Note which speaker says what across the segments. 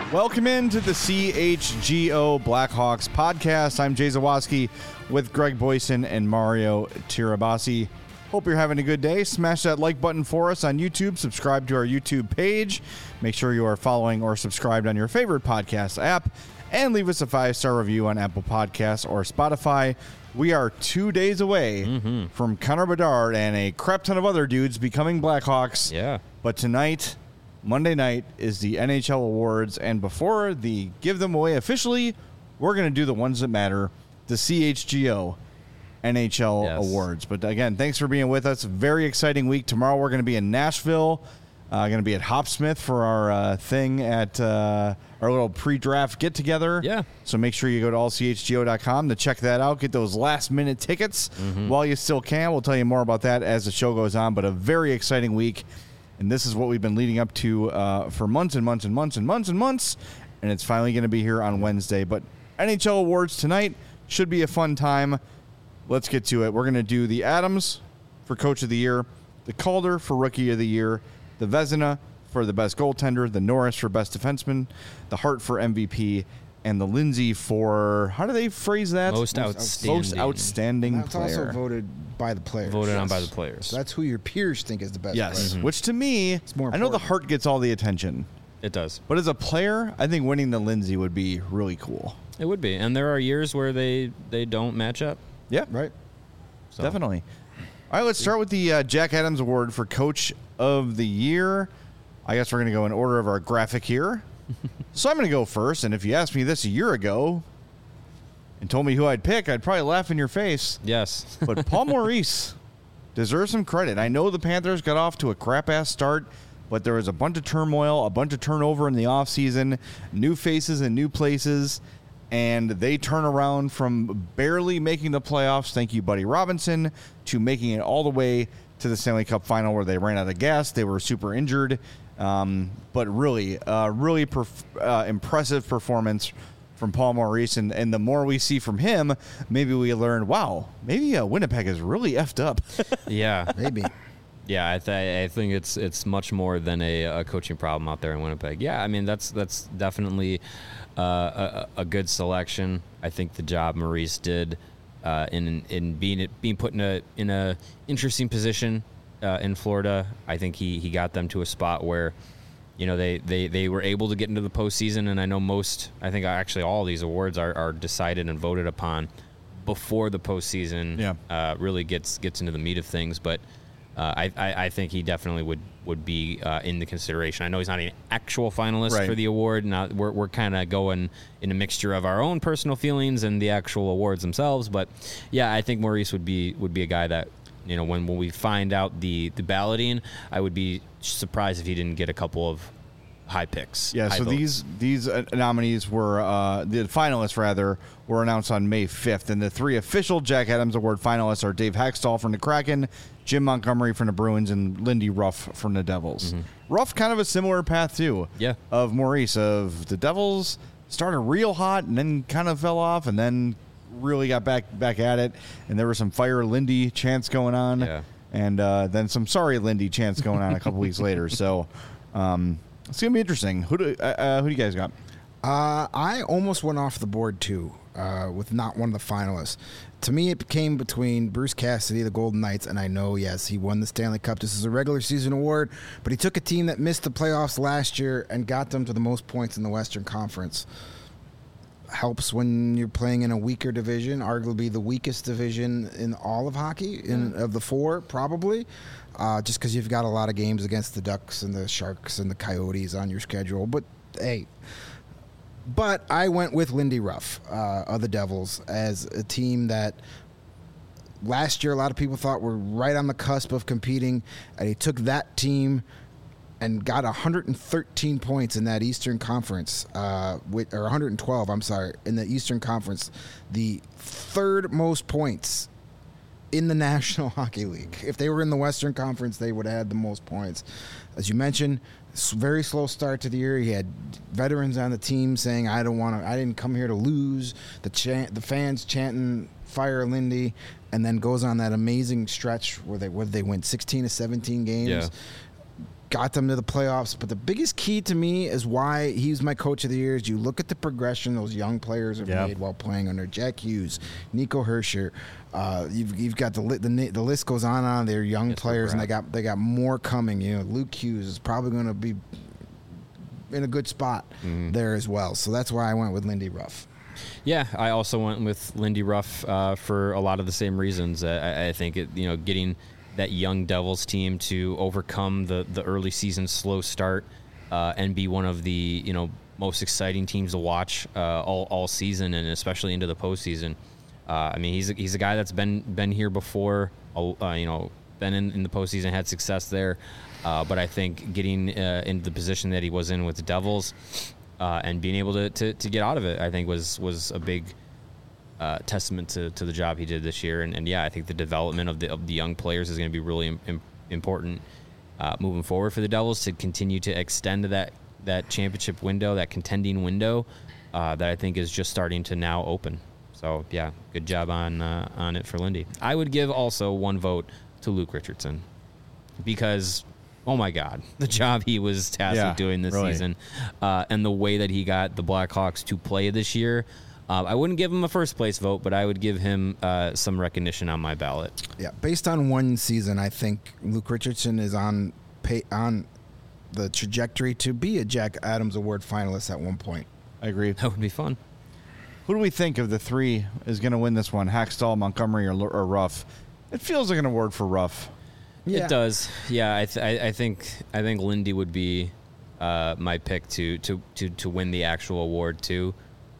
Speaker 1: Welcome into the CHGO Blackhawks podcast. I'm Jay Zawoski with Greg Boyson and Mario Tirabassi. Hope you're having a good day. Smash that like button for us on YouTube. Subscribe to our YouTube page. Make sure you are following or subscribed on your favorite podcast app. And leave us a 5-star review on Apple Podcasts or Spotify. We are 2 days away from Connor Bedard and a crap ton of other dudes becoming Blackhawks.
Speaker 2: Yeah.
Speaker 1: But tonight, Monday night, is the NHL Awards. And before the give them away officially, we're going to do the ones that matter, the CHGO NHL Awards. But again, thanks for being with us. Very exciting week. Tomorrow we're going to be in Nashville. Going to be at Hopsmith for our thing at our little pre-draft get-together.
Speaker 2: Yeah.
Speaker 1: So make sure you go to allchgo.com to check that out. Get those last-minute tickets while you still can. We'll tell you more about that as the show goes on. But a very exciting week. And this is what we've been leading up to for months and months and months and months and months. And it's finally going to be here on Wednesday. But NHL Awards tonight should be a fun time. Let's get to it. We're going to do the Adams for Coach of the Year, the Calder for Rookie of the Year, the Vezina for the Best Goaltender, the Norris for Best Defenseman, the Hart for MVP, and the Lindsay for, how do they phrase that?
Speaker 2: Most outstanding
Speaker 3: That's
Speaker 1: player.
Speaker 3: also voted by the players.
Speaker 2: Voted on by the players.
Speaker 3: So that's who your peers think is the best player.
Speaker 1: Which to me,
Speaker 3: more
Speaker 1: I know the
Speaker 3: important.
Speaker 1: Hart gets all the attention,
Speaker 2: It does.
Speaker 1: but as a player, I think winning the Lindsay would be really cool.
Speaker 2: It would be. And there are years where they don't match up.
Speaker 1: Yeah,
Speaker 3: Right?
Speaker 2: So.
Speaker 1: definitely. All right, let's start with the Jack Adams Award for Coach of the Year. I guess we're going to go in order of our graphic here. So I'm going to go first, and if you asked me this a year ago and told me who I'd pick, I'd probably laugh in your face.
Speaker 2: Yes.
Speaker 1: But Paul Maurice deserves some credit. I know the Panthers got off to a crap-ass start, but there was a bunch of turmoil, a bunch of turnover in the offseason, new faces in new places, and they turn around from barely making the playoffs, thank you, Buddy Robinson, to making it all the way to the Stanley Cup final where they ran out of gas. They were super injured, but really impressive performance from Paul Maurice. And the more we see from him, maybe we learn, wow, maybe Winnipeg is really effed up.
Speaker 2: Yeah.
Speaker 3: Maybe.
Speaker 2: Yeah, I think it's much more than a coaching problem out there in Winnipeg. Yeah, I mean that's definitely a good selection. I think the job Maurice did in being put in a interesting position in Florida. I think he got them to a spot where they were able to get into the postseason. And I know I think actually all of these awards are decided and voted upon before the postseason really gets into the meat of things, but. I think he definitely would be in the consideration. I know he's not an actual finalist for the award. Now we're kind of going in a mixture of our own personal feelings and the actual awards themselves. But yeah, I think Maurice would be a guy that when we find out the balloting, I would be surprised if he didn't get a couple of high picks.
Speaker 1: Yeah, so
Speaker 2: votes.
Speaker 1: these nominees were the finalists were announced on May 5th, and the three official Jack Adams Award finalists are Dave Hextall from the Kraken, Jim Montgomery from the Bruins, and Lindy Ruff from the Devils. Ruff kind of a similar path too.
Speaker 2: Yeah.
Speaker 1: Of Maurice, of the Devils started real hot and then kind of fell off and then really got back at it, and there was some fire Lindy chants going on, and then some sorry Lindy chants going on a couple weeks later. So. It's going to be interesting. Who do you guys got?
Speaker 3: I almost went off the board, too, with not one of the finalists. To me, it came between Bruce Cassidy, the Golden Knights, and I know, yes, he won the Stanley Cup. This is a regular season award, but he took a team that missed the playoffs last year and got them to the most points in the Western Conference. Helps when you're playing in a weaker division, arguably the weakest division in all of hockey, of the four, probably. Just because you've got a lot of games against the Ducks and the Sharks and the Coyotes on your schedule. But, hey. But I went with Lindy Ruff of the Devils as a team that last year a lot of people thought were right on the cusp of competing. And he took that team and got 113 points in that Eastern Conference, or 112, I'm sorry, in the Eastern Conference. The third most points in the National Hockey League. If they were in the Western Conference, they would have had the most points. As you mentioned, very slow start to the year. He had veterans on the team saying, I didn't come here to lose. The fans chanting, fire Lindy, and then goes on that amazing stretch where they win 16 of 17 games. got them to the playoffs. But the biggest key to me is why he's my coach of the year is you look at the progression those young players have made while playing under Jack Hughes, Nico Herscher. You've got the list goes on. They're young players, and they got more coming. You know, Luke Hughes is probably going to be in a good spot there as well. So that's why I went with Lindy Ruff.
Speaker 2: Yeah, I also went with Lindy Ruff for a lot of the same reasons. I think getting that young Devils team to overcome the early season slow start and be one of the most exciting teams to watch all season, and especially into the postseason. I mean, he's a guy that's been here before. Been in the postseason, had success there. But I think getting into the position that he was in with the Devils and being able to get out of it, I think was a big testament to the job he did this year. And I think the development of the young players is going to be really important moving forward for the Devils to continue to extend that championship window, that contending window that I think is just starting to now open. So, yeah, good job on it for Lindy. I would give also one vote to Luke Richardson because, oh, my God, the job he was tasked with doing this season and the way that he got the Blackhawks to play this year. I wouldn't give him a first-place vote, but I would give him some recognition on my ballot. Yeah,
Speaker 3: based on one season, I think Luke Richardson is on the trajectory to be a Jack Adams Award finalist at one point.
Speaker 1: I agree.
Speaker 2: That would be fun.
Speaker 1: Who do we think of the three is going to win this one? Hackstall, Montgomery, or Ruff? It feels like an award for Ruff.
Speaker 2: Yeah. It does. Yeah, I think Lindy would be my pick to win the actual award too.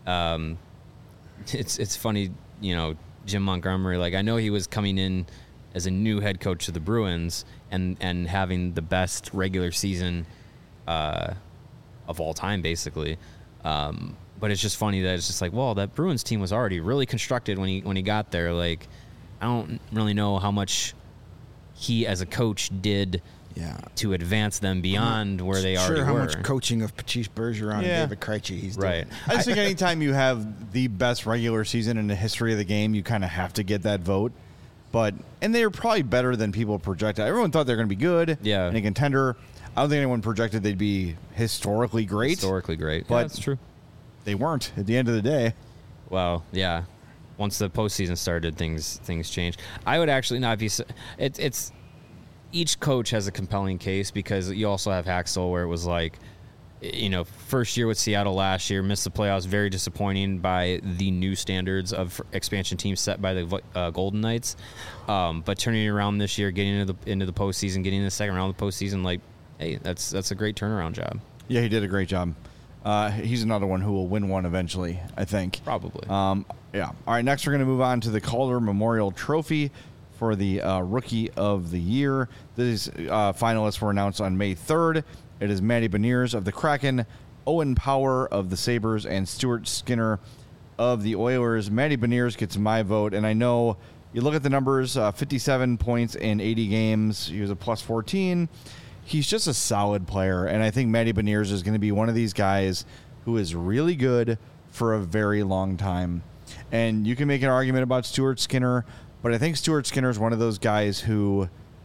Speaker 2: It's funny, Jim Montgomery. Like, I know he was coming in as a new head coach of the Bruins and having the best regular season of all time, basically. But it's just funny that it's just like, well, that Bruins team was already really constructed when he got there. Like, I don't really know how much he as a coach did to advance them beyond where they already were.
Speaker 3: How much coaching of Patrice Bergeron and David Krejci he's doing.
Speaker 1: I just think anytime you have the best regular season in the history of the game, you kind of have to get that vote. And they're probably better than people projected. Everyone thought they were going to be good and a contender. I don't think anyone projected they'd be historically great.
Speaker 2: But that's true.
Speaker 1: They weren't at the end of the day.
Speaker 2: Well, yeah. Once the postseason started, things changed. I would actually not be. It's each coach has a compelling case because you also have Haxel where it was like, first year with Seattle last year, missed the playoffs, very disappointing by the new standards of expansion teams set by the Golden Knights. But turning it around this year, getting into the postseason, getting in the second round of the postseason, like, hey, that's a great turnaround job.
Speaker 1: Yeah, he did a great job. He's another one who will win one eventually, I think.
Speaker 2: Probably.
Speaker 1: All right, next we're going to move on to the Calder Memorial Trophy for the Rookie of the Year. These finalists were announced on May 3rd. It is Matty Beniers of the Kraken, Owen Power of the Sabres, and Stuart Skinner of the Oilers. Matty Beniers gets my vote, and I know you look at the numbers, 57 points in 80 games. He was a plus 14. He's just a solid player, and I think Matty Beniers is going to be one of these guys who is really good for a very long time. And you can make an argument about Stuart Skinner, but I think Stuart Skinner is one of those guys who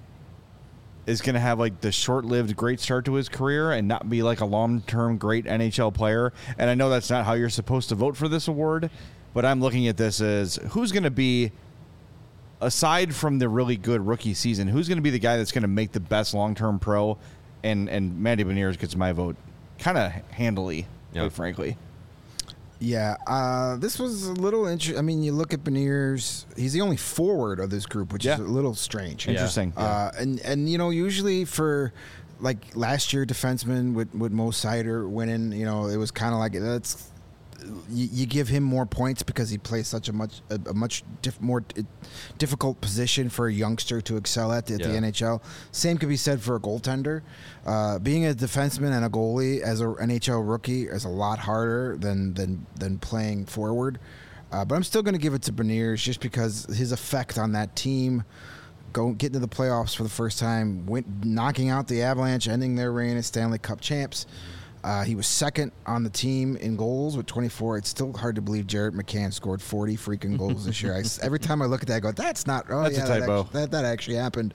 Speaker 1: is going to have like the short-lived great start to his career and not be like a long-term great NHL player. And I know that's not how you're supposed to vote for this award, but I'm looking at this as who's going to be, aside from the really good rookie season, who's going to be the guy that's going to make the best long-term pro? And Matty Beniers gets my vote kind of handily, quite frankly.
Speaker 3: Yeah, this was a little interesting. I mean, you look at Beniers; he's the only forward of this group, which is a little strange.
Speaker 1: Interesting.
Speaker 3: And usually for like last year, defenseman with Mo Seider winning, it was kind of like that's. You give him more points because he plays such a much more difficult position for a youngster to excel at the NHL. Same could be said for a goaltender. Being a defenseman and a goalie as an NHL rookie is a lot harder than playing forward. But I'm still going to give it to Beniers just because his effect on that team, getting to the playoffs for the first time, knocking out the Avalanche, ending their reign as Stanley Cup champs. He was second on the team in goals with 24. It's still hard to believe Jarrett McCann scored 40 freaking goals this year. Every time I look at that, I go, that's not. Oh,
Speaker 1: That's
Speaker 3: yeah,
Speaker 1: a typo.
Speaker 3: That actually happened.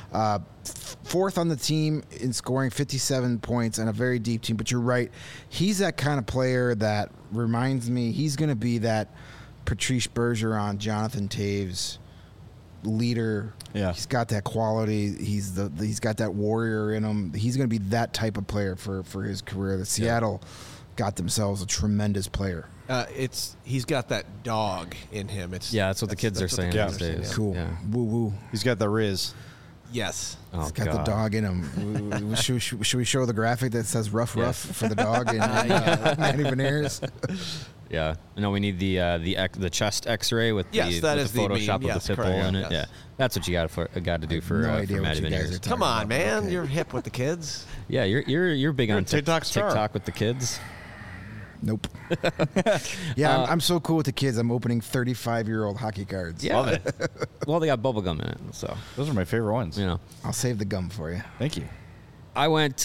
Speaker 3: Fourth on the team in scoring 57 points and a very deep team. But you're right. He's that kind of player that reminds me he's going to be that Patrice Bergeron, Jonathan Taves leader.
Speaker 1: Yeah.
Speaker 3: He's got that quality. He's got that warrior in him. He's going to be that type of player for his career. The Seattle got themselves a tremendous player.
Speaker 4: He's got that dog in him.
Speaker 2: That's what the kids are saying
Speaker 1: kids
Speaker 2: these
Speaker 1: are saying,
Speaker 2: days.
Speaker 3: Cool.
Speaker 2: Yeah.
Speaker 3: Woo woo.
Speaker 1: He's got the Riz.
Speaker 4: Yes.
Speaker 2: Oh,
Speaker 3: He's got
Speaker 2: God.
Speaker 3: the dog in him. Should we show the graphic that says rough for the dog and Manny Beniers?
Speaker 2: Yeah. No, we need the chest X-ray with the,
Speaker 4: Yes, that
Speaker 2: with
Speaker 4: is
Speaker 2: the
Speaker 4: the
Speaker 2: Photoshop
Speaker 4: meme.
Speaker 2: with
Speaker 4: Yes,
Speaker 2: the pit bull
Speaker 4: correct,
Speaker 2: in it.
Speaker 4: yes.
Speaker 2: Yeah. That's what you got to do for
Speaker 3: no idea
Speaker 2: Matty
Speaker 3: what you guys
Speaker 2: Beniers.
Speaker 3: are talking
Speaker 4: Come on,
Speaker 3: about.
Speaker 4: man.
Speaker 3: Okay.
Speaker 4: You're hip with the kids.
Speaker 2: Yeah, you're big
Speaker 1: You're
Speaker 2: on
Speaker 1: a TikTok star.
Speaker 2: TikTok with the kids.
Speaker 3: Nope. Yeah, I'm so cool with the kids. I'm opening 35-year-old hockey cards.
Speaker 2: Yeah.
Speaker 1: Love it.
Speaker 2: Well, they got bubble gum in it, so
Speaker 1: Those are my favorite ones.
Speaker 2: you know.
Speaker 3: I'll save the gum for you.
Speaker 1: Thank you.
Speaker 2: I went.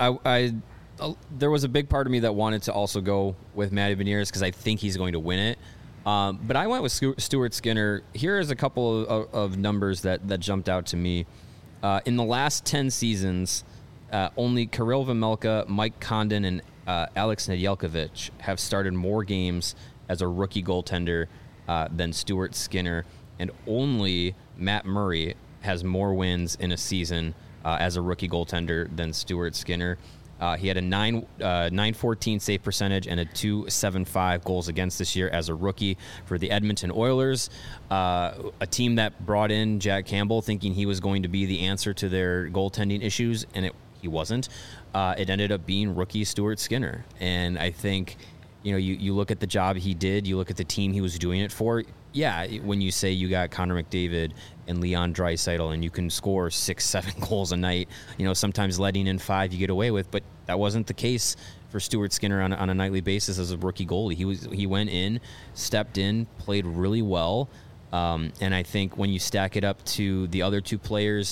Speaker 2: There was a big part of me that wanted to also go with Matty Beniers because I think he's going to win it. But I went with Stuart Skinner. Here is a couple of numbers that jumped out to me. In the last 10 seasons, only Kirill Vejmelka, Mike Condon, and Alex Nedeljkovic have started more games as a rookie goaltender than Stuart Skinner, and only Matt Murray has more wins in a season as a rookie goaltender than Stuart Skinner. He had a 914 save percentage and a 275 goals against this year as a rookie for the Edmonton Oilers, a team that brought in Jack Campbell thinking he was going to be the answer to their goaltending issues, and he wasn't. It ended up being rookie Stuart Skinner. And I think, you look at the job he did, you look at the team he was doing it for. Yeah, when you say you got Connor McDavid and Leon Draisaitl and you can score 6-7 goals a night, sometimes letting in 5 you get away with, but that wasn't the case for Stuart Skinner on a nightly basis as a rookie goalie. He went in, stepped in, played really well, and I think when you stack it up to the other two players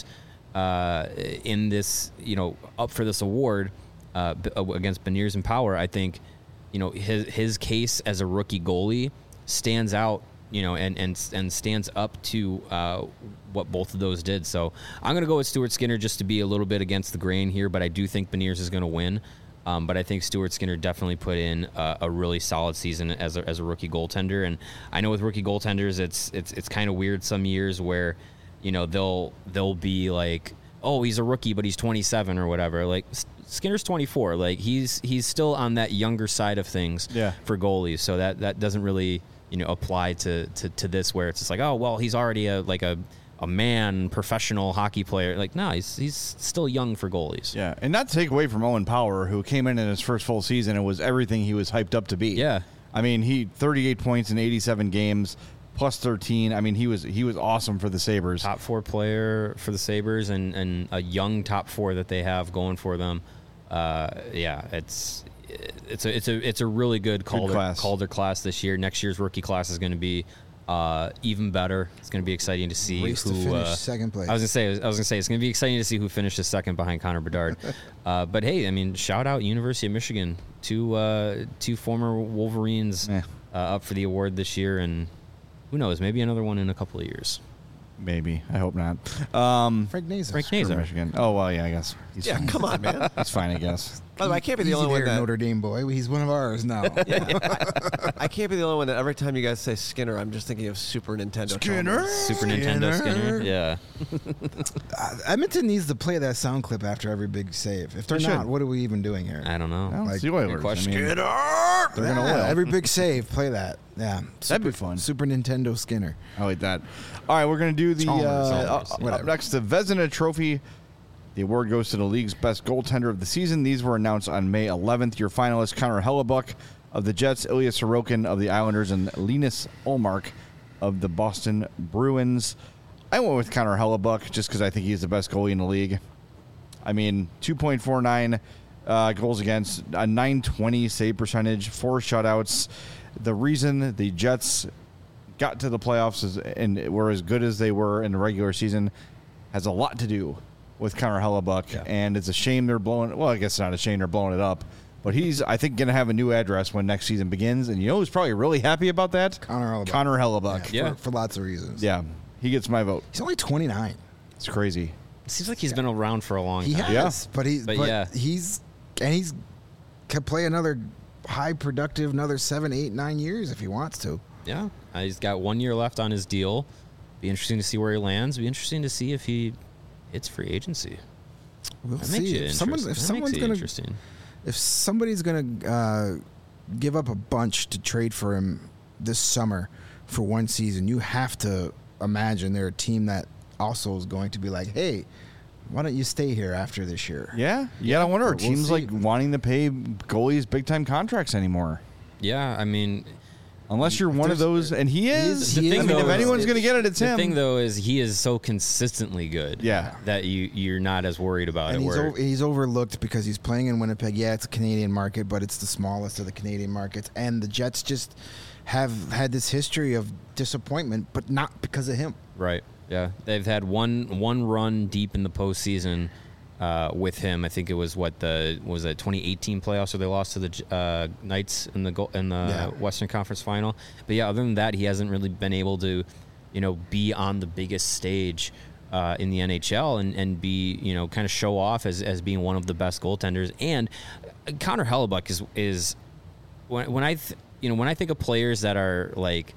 Speaker 2: in this, up for this award against Beniers and Power, I think, his case as a rookie goalie stands out, and stands up to what both of those did. So I'm going to go with Stuart Skinner just to be a little bit against the grain here, but I do think Beniers is going to win. But I think Stuart Skinner definitely put in a really solid season as a rookie goaltender. And I know with rookie goaltenders, it's kind of weird some years where, they'll be like, oh, he's a rookie, but he's 27 or whatever. Like Skinner's 24. Like he's still on that younger side of things for goalies. So that doesn't really apply to this where it's just like, oh, well, he's already a man, professional hockey player. Like, no, he's still young for goalies.
Speaker 1: Yeah, and not to take away from Owen Power, who came in his first full season and was everything he was hyped up to be.
Speaker 2: Yeah.
Speaker 1: I mean, he 38 points in 87 games, plus 13. I mean, he was awesome for the Sabres.
Speaker 2: Top 4 player for the Sabres and a young top 4 that they have going for them. It's a really good Calder class this year. Next year's rookie class is going to be even better. It's going to be exciting to see
Speaker 3: Race
Speaker 2: who
Speaker 3: to finish second place.
Speaker 2: I was gonna say it's going to be exciting to see who finishes second behind Connor Bedard. But hey, I mean, shout out University of Michigan, two former Wolverines up for the award this year, and who knows, maybe another one in a couple of years.
Speaker 1: Maybe. I hope not.
Speaker 3: Frank Nazar.
Speaker 2: Frank
Speaker 1: For
Speaker 2: Nazar.
Speaker 1: Michigan. Oh, well, yeah, I guess. He's fine.
Speaker 4: Come on, man.
Speaker 1: He's fine, I guess.
Speaker 4: By the way, I can't be the
Speaker 3: Easy
Speaker 4: only one
Speaker 3: there,
Speaker 4: that
Speaker 3: Notre Dame boy. He's one of ours now.
Speaker 4: I can't be the only one that every time you guys say Skinner, I'm just thinking of Super Nintendo. Chalmers.
Speaker 2: Super Nintendo Skinner. Yeah.
Speaker 3: Edmonton needs to play that sound clip after every big save. If they're
Speaker 1: They
Speaker 3: not,
Speaker 1: should.
Speaker 3: what are we even doing here?
Speaker 2: I don't know.
Speaker 1: Well,
Speaker 3: Like,
Speaker 1: it's the Oilers.
Speaker 2: good question.
Speaker 1: I mean,
Speaker 4: Skinner!
Speaker 1: they're going to win.
Speaker 3: Every big save, play that. Yeah,
Speaker 1: That'd be fun.
Speaker 3: Super Nintendo Skinner.
Speaker 1: I like that. All right, we're going to do the
Speaker 3: Chalmers,
Speaker 1: up
Speaker 3: whatever.
Speaker 1: next, the Vezina Trophy. The award goes to the league's best goaltender of the season. These were announced on May 11th. Your finalists, Connor Hellebuck of the Jets, Ilya Sorokin of the Islanders, and Linus Ullmark of the Boston Bruins. I went with Connor Hellebuck just because I think he's the best goalie in the league. I mean, 2.49 goals against, a 920 save percentage, 4 shutouts. The reason the Jets got to the playoffs and were as good as they were in the regular season has a lot to do with Connor Hellebuck, and it's a shame they're blowing. Well, I guess it's not a shame they're blowing it up, But he's, I think, going to have a new address when next season begins. And you know who's probably really happy about that?
Speaker 3: Connor Hellebuck.
Speaker 1: Connor Hellebuck.
Speaker 2: Yeah.
Speaker 3: For lots of reasons.
Speaker 1: Yeah. He gets my vote.
Speaker 3: He's only 29.
Speaker 1: It's crazy.
Speaker 2: It seems like he's been around for a long
Speaker 3: He
Speaker 2: time.
Speaker 3: has, but
Speaker 2: yeah.
Speaker 3: he's can play another high productive another 7, 8, 9 years if he wants to.
Speaker 2: Yeah. He's got 1 year left on his deal. Be interesting to see where he lands. Be interesting to see if he hits free agency.
Speaker 3: We'll
Speaker 2: That makes
Speaker 3: see.
Speaker 2: it
Speaker 3: If
Speaker 2: interesting.
Speaker 3: if somebody's gonna give up a bunch to trade for him this summer for one season, you have to imagine they're a team that also is going to be like, hey, why don't you stay here after this year?
Speaker 1: Yeah. Yeah, I wonder. Are
Speaker 3: We'll
Speaker 1: teams
Speaker 3: see.
Speaker 1: like wanting to pay goalies big time contracts anymore?
Speaker 2: Yeah, I mean,
Speaker 1: Unless you're one of those, and he is.
Speaker 2: The
Speaker 1: I
Speaker 2: thing,
Speaker 1: mean, if
Speaker 2: though,
Speaker 1: anyone's
Speaker 2: is-
Speaker 1: going to get it, it's
Speaker 2: the
Speaker 1: him.
Speaker 2: thing though is he is so consistently good.
Speaker 1: Yeah.
Speaker 2: that you're not as worried about
Speaker 3: And
Speaker 2: it. Where
Speaker 3: he's overlooked because he's playing in Winnipeg. Yeah, it's a Canadian market, but it's the smallest of the Canadian markets. And the Jets just have had this history of disappointment, but not because of him.
Speaker 2: right? Yeah, they've had one run deep in the postseason with him. I think it was 2018 playoffs, where they lost to the Knights in the Western Conference Final. But yeah, other than that, he hasn't really been able to, be on the biggest stage in the NHL and be, kind of show off as being one of the best goaltenders. And Connor Hellebuck is when I think of players that are like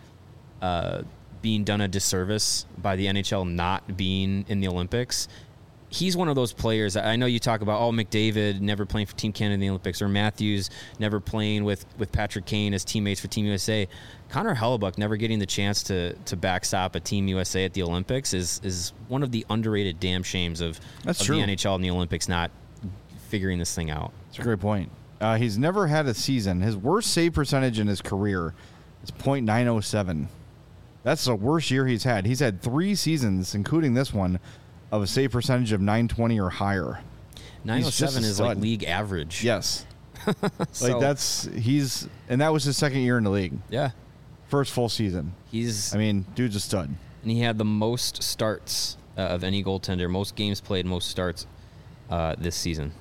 Speaker 2: being done a disservice by the NHL not being in the Olympics, he's one of those players. I know you talk about, McDavid never playing for Team Canada in the Olympics, or Matthews never playing with Patrick Kane as teammates for Team USA. Connor Hellebuck never getting the chance to backstop a Team USA at the Olympics is one of the underrated damn shames of the NHL and the Olympics not figuring this thing out.
Speaker 1: That's a great point. He's never had a season. His worst save percentage in his career is .907. That's the worst year he's had. He's had 3 seasons, including this one, of a save percentage of .920 or higher.
Speaker 2: 907 is like
Speaker 1: stud.
Speaker 2: league average.
Speaker 1: Yes.
Speaker 2: So-
Speaker 1: And that was his second year in the league.
Speaker 2: Yeah.
Speaker 1: First full season.
Speaker 2: He's
Speaker 1: I mean, dude's a stud.
Speaker 2: and he had the most starts of any goaltender, most games played, most starts this season.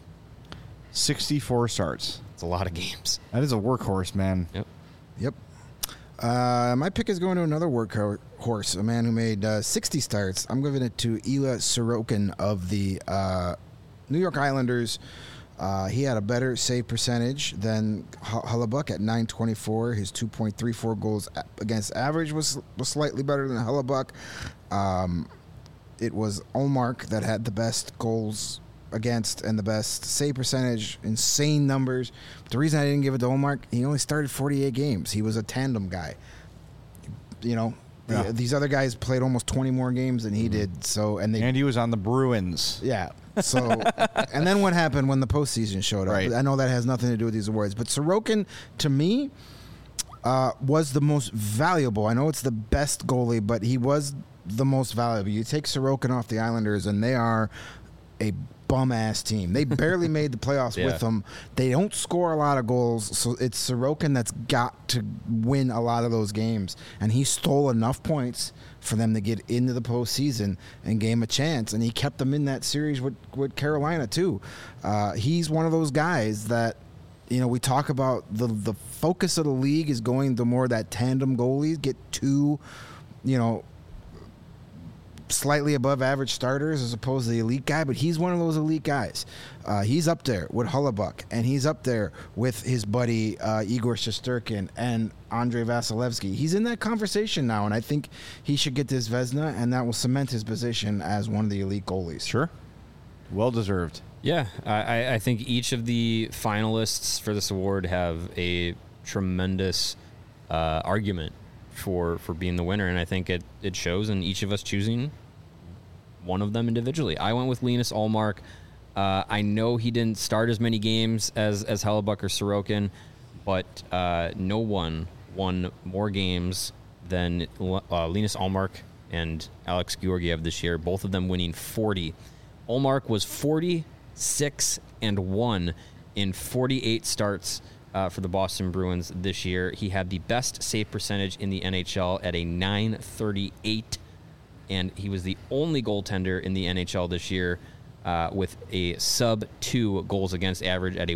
Speaker 1: 64 starts.
Speaker 2: It's a lot of games.
Speaker 1: That is a workhorse, man.
Speaker 2: Yep.
Speaker 3: Yep. My pick is going to another workhorse, a man who made 60 starts. I'm giving it to Ilya Sorokin of the New York Islanders. He had a better save percentage than Hellebuck at .924. His 2.34 goals against average was slightly better than Hellebuck. It was Ullmark that had the best goals against and the best save percentage, insane numbers. But the reason I didn't give it to Ullmark, he only started 48 games. He was a tandem guy. These other guys played almost 20 more games than he did. So and
Speaker 1: he was on the Bruins.
Speaker 3: yeah. So, and then what happened when the postseason showed up?
Speaker 1: Right.
Speaker 3: I know that has nothing to do with these awards, but Sorokin, to me, was the most valuable. I know it's the best goalie, but he was the most valuable. You take Sorokin off the Islanders, and they are a bum-ass team. They barely made the playoffs with them. They don't score a lot of goals, so it's Sorokin that's got to win a lot of those games. And he stole enough points for them to get into the postseason and gave him a chance. And he kept them in that series with Carolina, too. He's one of those guys that, we talk about the focus of the league is going to more that tandem goalies, get 2, slightly above average starters as opposed to the elite guy, but he's one of those elite guys. He's up there with Hellebuck, and he's up there with his buddy Igor Shesterkin and Andrei Vasilevsky. He's in that conversation now, and I think he should get this Vezina, and that will cement his position as one of the elite goalies.
Speaker 1: Sure. Well deserved.
Speaker 2: Yeah, I think each of the finalists for this award have a tremendous argument for being the winner, and I think it shows in each of us choosing one of them individually. I went with Linus Ullmark. I know he didn't start as many games as Hellebuck or Sorokin, but no one won more games than Linus Ullmark and Alex Georgiev this year, both of them winning 40. Ullmark was 46-1 in 48 starts for the Boston Bruins this year. He had the best save percentage in the NHL at a .938, and he was the only goaltender in the NHL this year with a sub-2 goals against average at a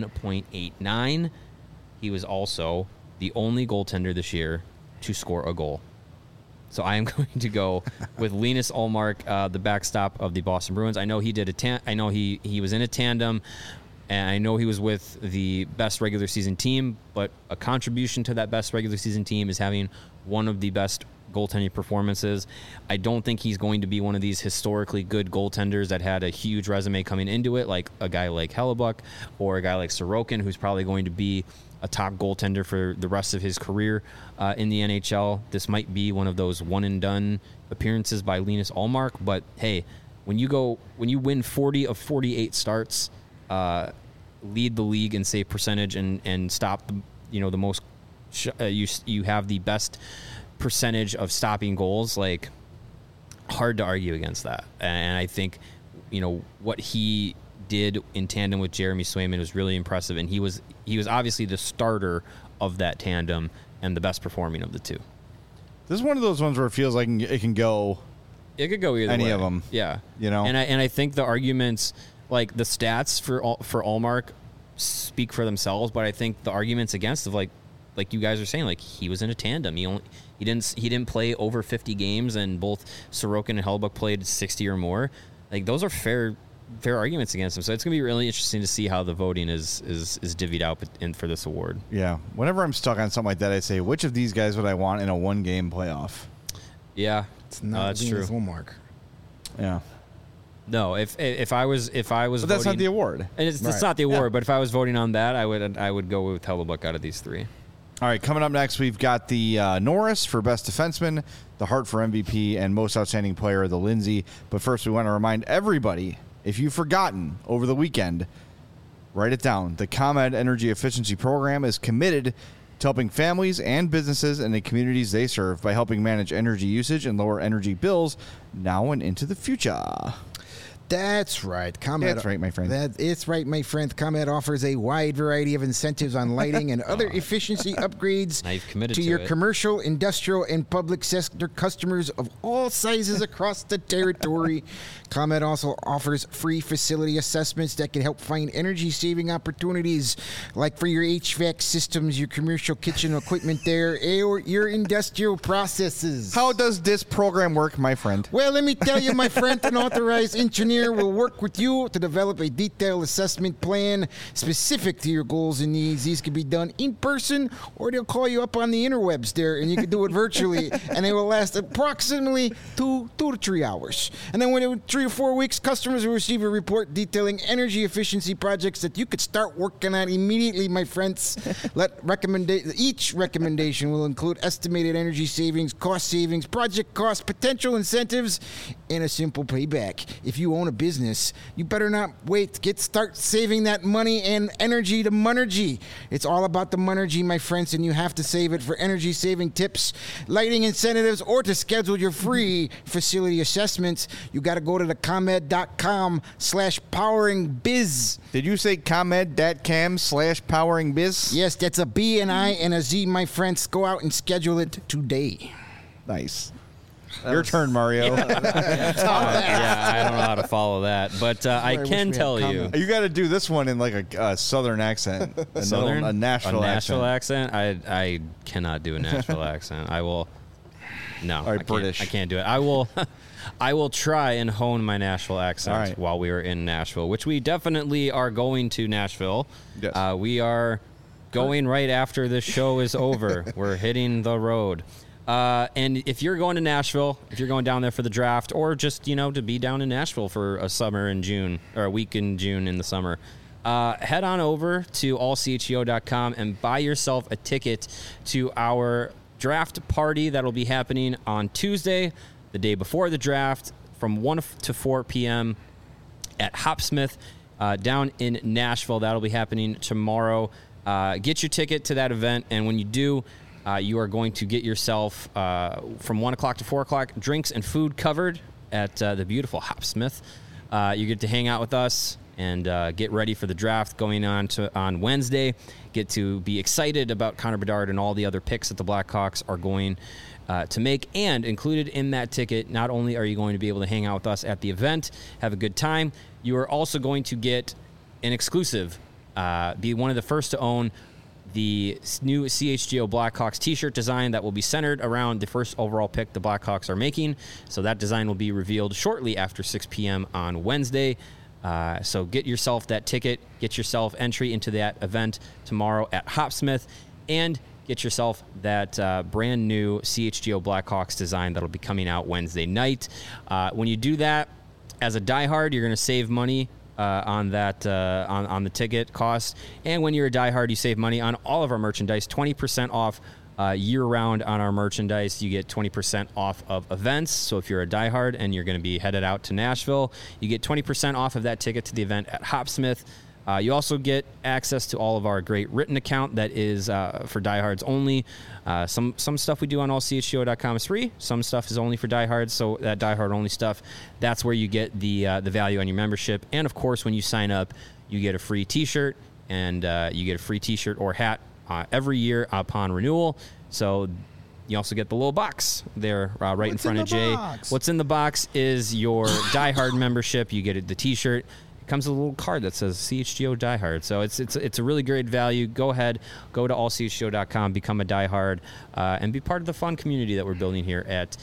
Speaker 2: 1.89. He was also the only goaltender this year to score a goal. So I am going to go with Linus Ullmark, the backstop of the Boston Bruins. I know he did I know he was in a tandem, and I know he was with the best regular season team, but a contribution to that best regular season team is having one of the best goaltending performances. I don't think he's going to be one of these historically good goaltenders that had a huge resume coming into it, like a guy like Hellebuck or a guy like Sorokin, who's probably going to be a top goaltender for the rest of his career in the NHL. This might be one of those one-and-done appearances by Linus Ullmark, but hey, when you win 40 of 48 starts, lead the league in save percentage, and stop the most you have the best percentage of stopping goals, like, hard to argue against that. And I think what he did in tandem with Jeremy Swayman was really impressive, and he was obviously the starter of that tandem and the best performing of the two.
Speaker 1: This is one of those ones where it feels like it can go.
Speaker 2: It could go either
Speaker 1: any
Speaker 2: way.
Speaker 1: of them.
Speaker 2: Yeah,
Speaker 1: And
Speaker 2: I think the arguments, like the stats for Ullmark, speak for themselves, but I think the arguments against, of like you guys are saying, like, he was in a tandem. He didn't play over 50 games, and both Sorokin and Hellebuck played 60 or more. Like, those are fair arguments against him. So it's going to be really interesting to see how the voting is divvied out for this award.
Speaker 1: Yeah. Whenever I'm stuck on something like that, I say, which of these guys would I want in a one-game playoff?
Speaker 2: Yeah.
Speaker 3: It's not
Speaker 2: that's
Speaker 3: Linus
Speaker 2: true.
Speaker 3: Ullmark.
Speaker 1: Yeah.
Speaker 2: No, if I was
Speaker 1: But that's
Speaker 2: voting,
Speaker 1: not the award.
Speaker 2: and it's
Speaker 3: Right.
Speaker 2: not the award, but if I was voting on that, I would go with Hellebuck out of these three.
Speaker 1: All right, coming up next, we've got the Norris for Best Defenseman, the Hart for MVP, and Most Outstanding Player, the Lindsay. But first, we want to remind everybody, if you've forgotten over the weekend, write it down. The ComEd Energy Efficiency Program is committed to helping families and businesses in the communities they serve by helping manage energy usage and lower energy bills now and into the future.
Speaker 3: That's right. ComEd.
Speaker 1: That's right, my friend.
Speaker 3: It's right, my friend. ComEd offers a wide variety of incentives on lighting and other efficiency upgrades
Speaker 2: Now you've committed to
Speaker 3: your
Speaker 2: it.
Speaker 3: commercial, industrial, and public sector customers of all sizes across the territory. ComEd also offers free facility assessments that can help find energy-saving opportunities, like for your HVAC systems, your commercial kitchen equipment there, or your industrial processes.
Speaker 1: How does this program work, my friend?
Speaker 3: Well, let me tell you, my friend, an authorized engineer will work with you to develop a detailed assessment plan specific to your goals and needs. These can be done in person, or they'll call you up on the interwebs there, and you can do it virtually, and they will last approximately 2 to 3 hours. And then within 3 or 4 weeks, customers will receive a report detailing energy efficiency projects that you could start working on immediately, my friends. Each recommendation will include estimated energy savings, cost savings, project costs, potential incentives, and a simple payback. If you own a business, you better not wait. Start saving that money and energy to Monergy. It's all about the Monergy, my friends, and you have to save it for energy saving tips, lighting incentives, or to schedule your free facility assessments. You got to go to the ComEd.com/poweringbiz.
Speaker 1: Did you say ComEd.com/poweringbiz?
Speaker 3: Yes, that's a B, and I, and a Z, my friends. Go out and schedule it today.
Speaker 1: Nice. Your turn, Mario.
Speaker 2: Yeah, I don't know how to follow that, but I
Speaker 3: wish
Speaker 2: can
Speaker 3: we had
Speaker 2: tell you.
Speaker 3: comment.
Speaker 1: You got to do this one in like a southern accent. A Nashville
Speaker 2: accent. I cannot do a Nashville accent. I will. No,
Speaker 1: All right,
Speaker 2: I can't.
Speaker 1: British.
Speaker 2: I can't do it. I will. I will try and hone my Nashville accent
Speaker 1: All right.
Speaker 2: while we are in Nashville, which we definitely are going to Nashville.
Speaker 1: Yes.
Speaker 2: We are going right after this show is over. We're hitting the road. And if you're going to Nashville, if you're going down there for the draft, or just, to be down in Nashville for a summer in June, or a week in June in the summer, head on over to allchgo.com and buy yourself a ticket to our draft party that'll be happening on Tuesday, the day before the draft, from 1 to 4 p.m. at Hopsmith down in Nashville. That'll be happening tomorrow. Get your ticket to that event, and when you do, you are going to get yourself, from 1 o'clock to 4 o'clock, drinks and food covered at the beautiful Hopsmith. You get to hang out with us and get ready for the draft going on Wednesday. Get to be excited about Connor Bedard and all the other picks that the Blackhawks are going to make. And included in that ticket, not only are you going to be able to hang out with us at the event, have a good time, you are also going to get an exclusive, be one of the first to own the new CHGO Blackhawks t-shirt design that will be centered around the first overall pick the Blackhawks are making. So that design will be revealed shortly after 6 p.m. on Wednesday. So get yourself that ticket, get yourself entry into that event tomorrow at Hopsmith, and get yourself that brand new CHGO Blackhawks design that'll be coming out Wednesday night. When you do that, as a diehard, you're going to save money on that on the ticket cost, and when you're a diehard, you save money on all of our merchandise. 20% off year-round on our merchandise. You get 20% off of events. So if you're a diehard and you're going to be headed out to Nashville, you get 20% off of that ticket to the event at Hopsmith. You also get access to all of our great written account that is for diehards only. Some stuff we do on allchgo.com is free. Some stuff is only for diehards. So that diehard only stuff, that's where you get the value on your membership. And of course, when you sign up, you get a free T-shirt, and you get a free T-shirt or hat every year upon renewal. So you also get the little box there right in front of Jay. What's in the box is your diehard membership. You get the T-shirt. Comes with a little card that says CHGO Diehard. So it's a really great value. Go ahead, go to allchgo.com, become a diehard, and be part of the fun community that we're building here at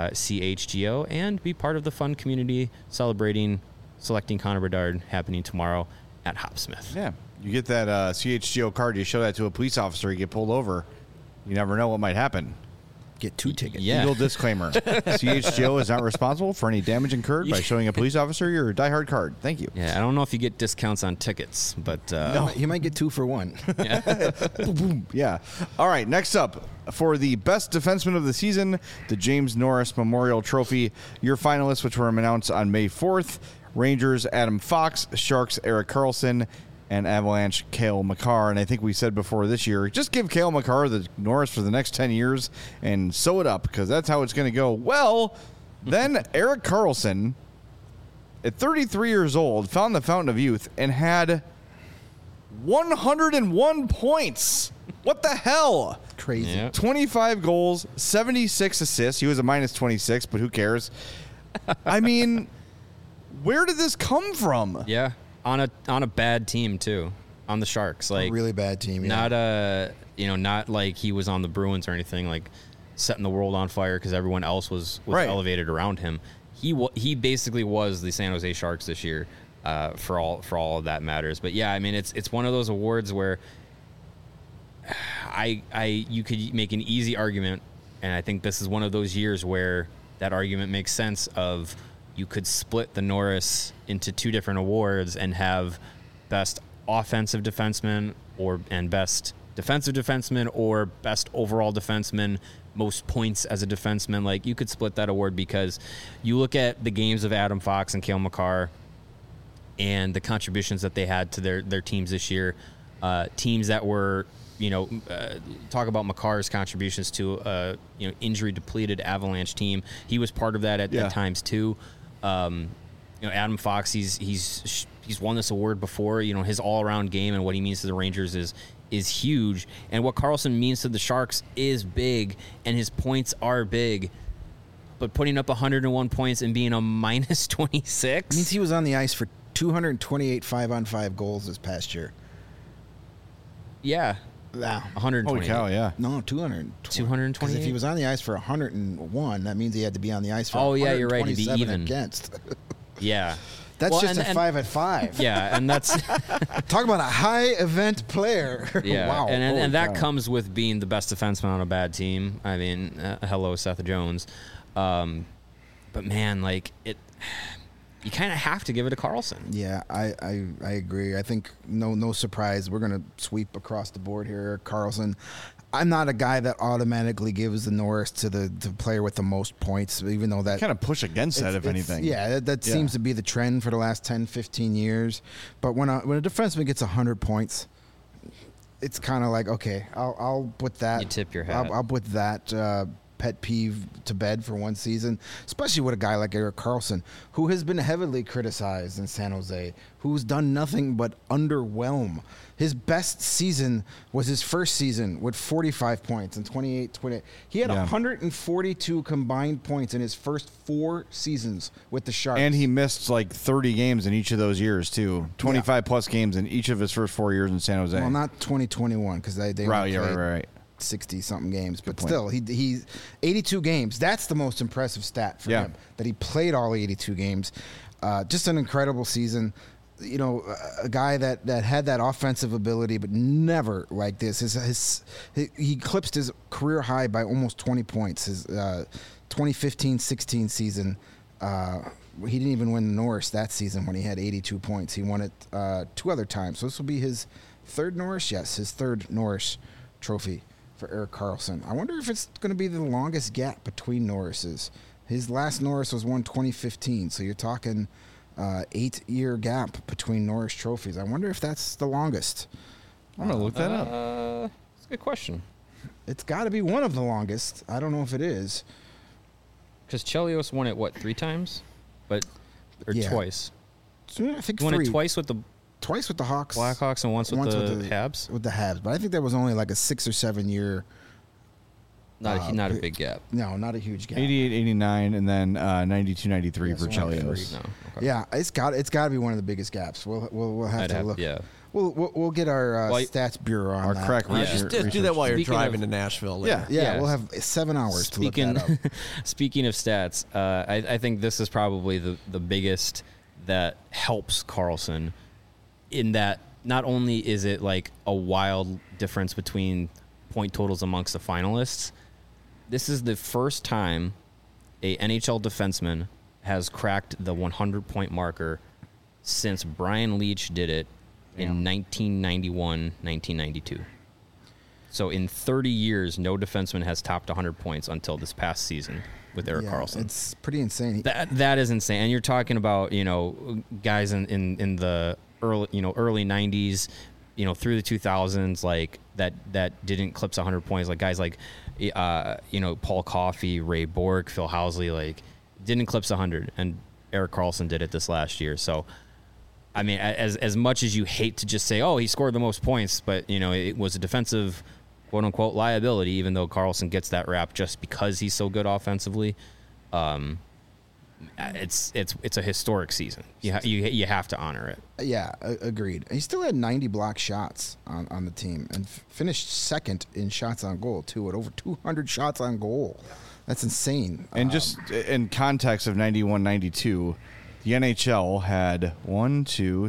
Speaker 2: CHGO, and be part of the fun community celebrating selecting Connor Bedard happening tomorrow at Hopsmith.
Speaker 1: Yeah, you get that CHGO card, you show that to a police officer, you get pulled over. You never know what might happen.
Speaker 3: Get 2 tickets.
Speaker 2: Yeah.
Speaker 1: Legal disclaimer. CHGO is not responsible for any damage incurred by showing a police officer your diehard card. Thank you.
Speaker 2: Yeah, I don't know if you get discounts on tickets, but
Speaker 3: You might get 2 for 1.
Speaker 1: Boom, boom. Yeah. All right, next up, for the best defenseman of the season, the James Norris Memorial Trophy. Your finalists, which were announced on May 4th, Rangers Adam Fox, Sharks Erik Karlsson, and Avalanche Cale Makar. And I think we said before this year, just give Cale Makar the Norris for the next 10 years and sew it up, because that's how it's going to go. Well, then Erik Karlsson, at 33 years old, found the fountain of youth and had 101 points. What the hell?
Speaker 3: Crazy.
Speaker 2: Yeah.
Speaker 1: 25 goals, 76 assists. He was a minus 26, but who cares? I mean, where did this come from?
Speaker 2: yeah, on a bad team too, on the Sharks. Like,
Speaker 3: A really bad team. Yeah.
Speaker 2: not like he was on the Bruins or anything, like setting the world on fire because everyone else was
Speaker 1: Right.
Speaker 2: elevated around him. He basically was the San Jose Sharks this year, for all of that matters. But yeah, I mean, it's one of those awards where you could make an easy argument, and I think this is one of those years where that argument makes sense. Of you could split the Norris into 2 different awards and have best offensive defenseman and best defensive defenseman, or best overall defenseman, most points as a defenseman. Like, you could split that award, because you look at the games of Adam Fox and Cale Makar and the contributions that they had to their teams this year. Teams that were, talk about Makar's contributions to injury depleted Avalanche team. He was part of that at times too. Adam Fox, he's won this award before. His all-around game and what he means to the Rangers is huge, and what Karlsson means to the Sharks is big, and his points are big. But putting up 101 points and being a minus 26
Speaker 3: means he was on the ice for 228 5-on-5 goals this past year.
Speaker 2: Yeah,
Speaker 3: Wow.
Speaker 2: 120.
Speaker 1: Holy cow, yeah.
Speaker 3: No, 220.
Speaker 2: 228?
Speaker 3: Because if he was on the ice for 101, that means he had to be on the ice for
Speaker 2: Oh, yeah, you're right. He'd be
Speaker 3: 127
Speaker 2: even.
Speaker 3: against.
Speaker 2: Yeah.
Speaker 3: That's
Speaker 2: Well,
Speaker 3: just
Speaker 2: and-
Speaker 3: a 5-at-5.
Speaker 2: Yeah, and that's
Speaker 3: Talk about a high event player.
Speaker 2: yeah,
Speaker 3: Wow.
Speaker 2: and
Speaker 3: Holy
Speaker 2: that
Speaker 3: cow.
Speaker 2: comes with being the best defenseman on a bad team. I mean, hello, Seth Jones. But man, like it, you kind of have to give it to Karlsson.
Speaker 3: Yeah, I agree. I think no surprise. We're going to sweep across the board here. Karlsson. I'm not a guy that automatically gives the Norris to the player with the most points, even though that
Speaker 1: Kind of push against that, if anything.
Speaker 3: Yeah, that
Speaker 1: Yeah.
Speaker 3: seems to be the trend for the last 10, 15 years. But when a defenseman gets 100 points, it's kind of like, okay, I'll put that.
Speaker 2: You tip your hat.
Speaker 3: I'll put that pet peeve to bed for one season, especially with a guy like Erik Karlsson, who has been heavily criticized in San Jose, who's done nothing but underwhelm. His best season was his first season with 45 points and 28. He had 142 combined points in his first 4 seasons with the Sharks.
Speaker 1: And he missed like 30 games in each of those years, too. 25-plus games in each of his first 4 years in San Jose.
Speaker 3: Well, not 2021 because they only played
Speaker 1: right.
Speaker 3: 60-something games. But still, he's 82 games. That's the most impressive stat for him, that he played all 82 games. Just an incredible season. You know, a guy that had that offensive ability, but never like this. He eclipsed his career high by almost 20 points. His 2015-16 season, he didn't even win the Norris that season when he had 82 points. He won it 2 other times. So this will be his third Norris? Yes, his third Norris trophy for Erik Karlsson. I wonder if it's going to be the longest gap between Norrises. His last Norris was won 2015, so you're talking 8-year gap between Norris trophies. I wonder if that's the longest.
Speaker 1: I'm going to look that up.
Speaker 2: That's a good question.
Speaker 3: It's got to be one of the longest. I don't know if it is.
Speaker 2: Because Chelios won it, 3 times? Or twice?
Speaker 3: I think
Speaker 2: he won
Speaker 3: 3.
Speaker 2: It twice with the
Speaker 3: Hawks.
Speaker 2: Blackhawks and once with the Habs?
Speaker 3: With the Habs. But I think that was only like a 6 or 7 year.
Speaker 2: Not a big gap.
Speaker 3: No, not a huge gap.
Speaker 1: 88, 89, and then 92, 93 for Chelios.
Speaker 2: No, okay.
Speaker 3: Yeah, it's got to be one of the biggest gaps. We'll have to look.
Speaker 2: Yeah.
Speaker 3: We'll get our stats bureau on that.
Speaker 1: crack
Speaker 4: Just do that while you're driving to Nashville later.
Speaker 3: Yeah, we'll have 7 hours to look that up.
Speaker 2: Speaking of stats, I think this is probably the biggest that helps Karlsson in that not only is it like a wild difference between point totals amongst the finalists, this is the first time a NHL defenseman has cracked the 100-point marker since Brian Leetch did it in 1991-1992. So in 30 years, no defenseman has topped 100 points until this past season with Erik Karlsson.
Speaker 3: It's pretty insane.
Speaker 2: That is insane. And you're talking about, guys in the early 90s, through the 2000s, like that didn't eclipse 100 points. Like guys like Paul Coffey, Ray Bourque, Phil Housley, like didn't eclipse 100, and Erik Karlsson did it this last year. So, I mean, as much as you hate to just say, oh, he scored the most points, but it was a defensive quote unquote liability, even though Karlsson gets that rap just because he's so good offensively. It's a historic season. You have to honor it.
Speaker 3: Yeah, agreed. He still had 90 block shots on the team and finished second in shots on goal too, at over 200 shots on goal. That's insane.
Speaker 1: And just in context of 91-92, the NHL had 9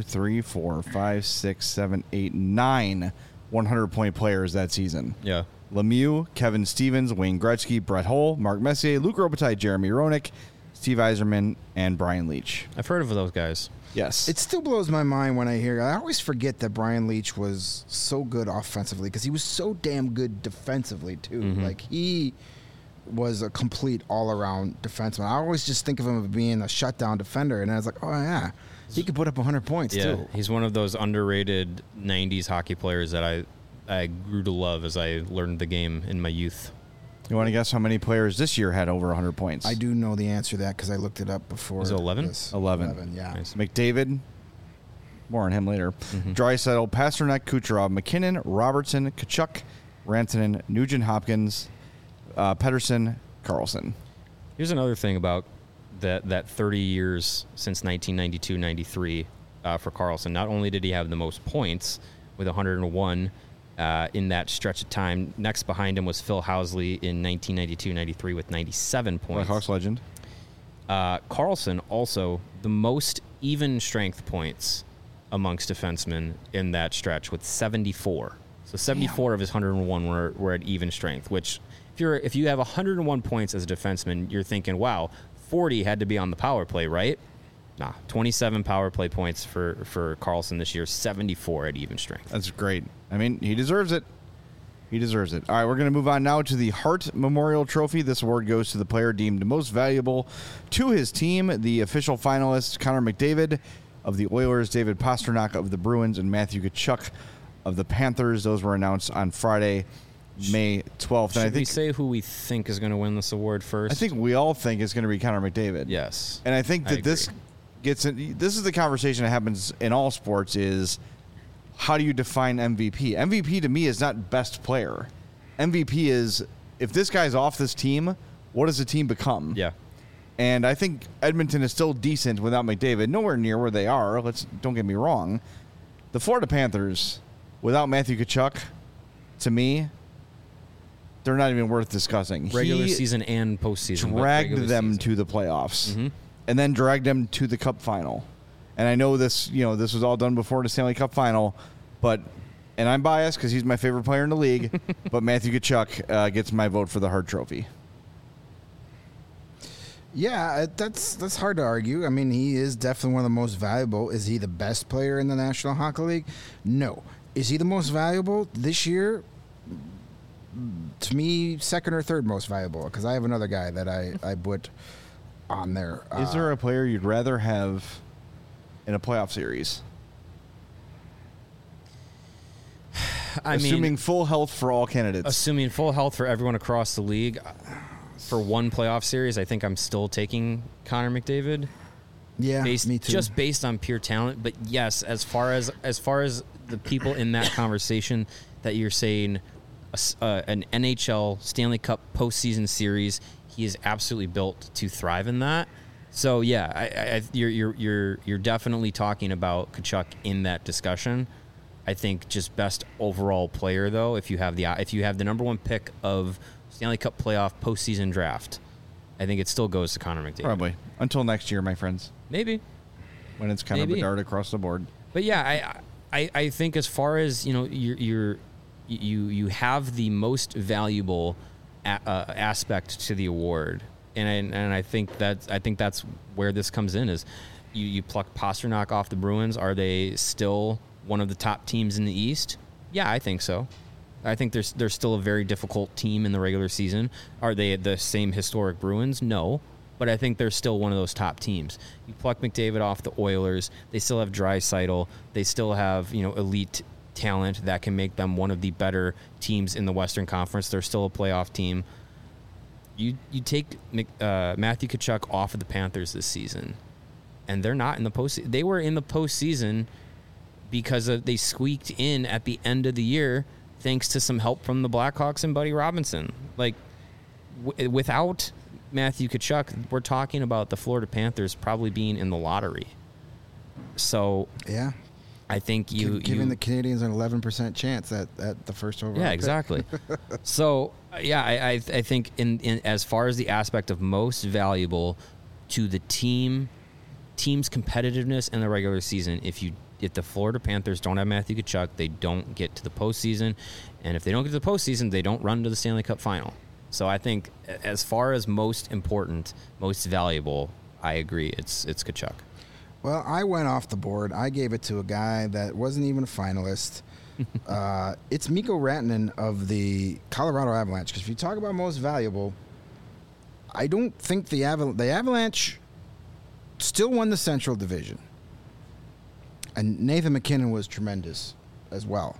Speaker 1: 100-point players that season.
Speaker 2: Yeah.
Speaker 1: Lemieux, Kevin Stevens, Wayne Gretzky, Brett Hull, Mark Messier, Luc Robitaille, Jeremy Roenick, Steve Yzerman, and Brian Leetch.
Speaker 2: I've heard of those guys.
Speaker 1: Yes.
Speaker 3: It still blows my mind when I always forget that Brian Leetch was so good offensively because he was so damn good defensively too.
Speaker 2: Mm-hmm.
Speaker 3: Like he was a complete all-around defenseman. I always just think of him as being a shutdown defender, and I was like, oh yeah, he could put up 100 points too.
Speaker 2: He's one of those underrated 90s hockey players that I grew to love as I learned the game in my youth.
Speaker 1: You want to guess how many players this year had over 100 points?
Speaker 3: I do know the answer to that because I looked it up before.
Speaker 2: Was it 11?
Speaker 1: 11,
Speaker 3: yeah.
Speaker 2: Nice.
Speaker 1: McDavid, more on him later.
Speaker 2: Mm-hmm.
Speaker 1: Draisaitl, Pasternak, Kucherov, McKinnon, Robertson, Kachuk, Rantanen, Nugent-Hopkins, Pettersson, Karlsson.
Speaker 2: Here's another thing about that 30 years since 1992-93 for Karlsson. Not only did he have the most points with 101 in that stretch of time, next behind him was Phil Housley in 1992-93 with 97 points.
Speaker 1: Blackhawks legend.
Speaker 2: Karlsson also the most even strength points amongst defensemen in that stretch with 74. So 74 of his 101 were at even strength, which if you have 101 points as a defenseman, you're thinking, wow, 40 had to be on the power play, right? Nah, 27 power play points for Karlsson this year, 74 at even strength.
Speaker 1: That's great. I mean, he deserves it. He deserves it. All right, we're going to move on now to the Hart Memorial Trophy. This award goes to the player deemed most valuable to his team. The official finalists, Connor McDavid of the Oilers, David Pasternak of the Bruins, and Matthew Tkachuk of the Panthers. Those were announced on Friday. May 12th.
Speaker 2: Should
Speaker 1: And I
Speaker 2: we
Speaker 1: think
Speaker 2: say who we think is going to win this award first?
Speaker 1: I think we all think it's going to be Connor McDavid.
Speaker 2: yes.
Speaker 1: And I think
Speaker 2: I
Speaker 1: that this
Speaker 2: agree.
Speaker 1: gets in, this is the conversation that happens in all sports is how do you define MVP? MVP to me is not best player. MVP is if this guy's off this team, what does the team become?
Speaker 2: Yeah.
Speaker 1: And I think Edmonton is still decent without McDavid. Nowhere near where they are. Don't get me wrong. The Florida Panthers without Matthew Tkachuk, to me, they're not even worth discussing.
Speaker 2: Regular
Speaker 1: He
Speaker 2: season and postseason. but
Speaker 1: dragged
Speaker 2: regular
Speaker 1: them
Speaker 2: season.
Speaker 1: to the playoffs,
Speaker 2: Mhm.
Speaker 1: and then dragged them to the Cup final. And I know this, this was all done before the Stanley Cup final, and I'm biased because he's my favorite player in the league. But Matthew Tkachuk gets my vote for the Hart Trophy.
Speaker 3: Yeah, that's hard to argue. I mean, he is definitely one of the most valuable. Is he the best player in the National Hockey League? No. Is he the most valuable this year? To me, second or third most valuable, because I have another guy that I put on there.
Speaker 1: Is there a player you'd rather have in a playoff series? Assuming full health for all candidates.
Speaker 2: Assuming full health for everyone across the league, for one playoff series, I think I'm still taking Connor McDavid.
Speaker 3: Yeah, me too.
Speaker 2: Just based on pure talent. But yes, as far as the people in that conversation that you're saying, an NHL Stanley Cup postseason series, he is absolutely built to thrive in that. So yeah, you're definitely talking about Tkachuk in that discussion. I think just best overall player though, if you have the number one pick of Stanley Cup playoff postseason draft, I think it still goes to Connor McDavid.
Speaker 1: Probably. Until next year, my friends,
Speaker 2: Maybe.
Speaker 1: when it's kind of a dart across the board.
Speaker 2: But yeah, I think as far as you have the most valuable aspect to the award, and I think that's where this comes in is you pluck Pasternak off the Bruins. Are they still one of the top teams in the East? Yeah, I think so. I think they're still a very difficult team in the regular season. Are they the same historic Bruins? No. But I think they're still one of those top teams. You pluck McDavid off the Oilers, they still have Draisaitl. They still have elite talent that can make them one of the better teams in the Western Conference. They're still a playoff team. You take Matthew Tkachuk off of the Panthers this season, and they're not in the postseason. They were in the postseason because they squeaked in at the end of the year thanks to some help from the Blackhawks and Buddy Robinson. Like, without Matthew Tkachuk, we're talking about the Florida Panthers probably being in the lottery. So
Speaker 3: yeah,
Speaker 2: I think
Speaker 3: giving the Canadians an 11% chance at the first overall.
Speaker 2: Yeah,
Speaker 3: pick.
Speaker 2: exactly. So yeah, I think in as far as the aspect of most valuable to the team's competitiveness in the regular season, if the Florida Panthers don't have Matthew Tkachuk, they don't get to the postseason, and if they don't get to the postseason, they don't run to the Stanley Cup final. So I think as far as most important, most valuable, I agree. It's Tkachuk.
Speaker 3: Well, I went off the board. I gave it to a guy that wasn't even a finalist. It's Mikko Rantanen of the Colorado Avalanche. Because if you talk about most valuable, I don't think the Avalanche still won the Central Division. And Nathan MacKinnon was tremendous as well.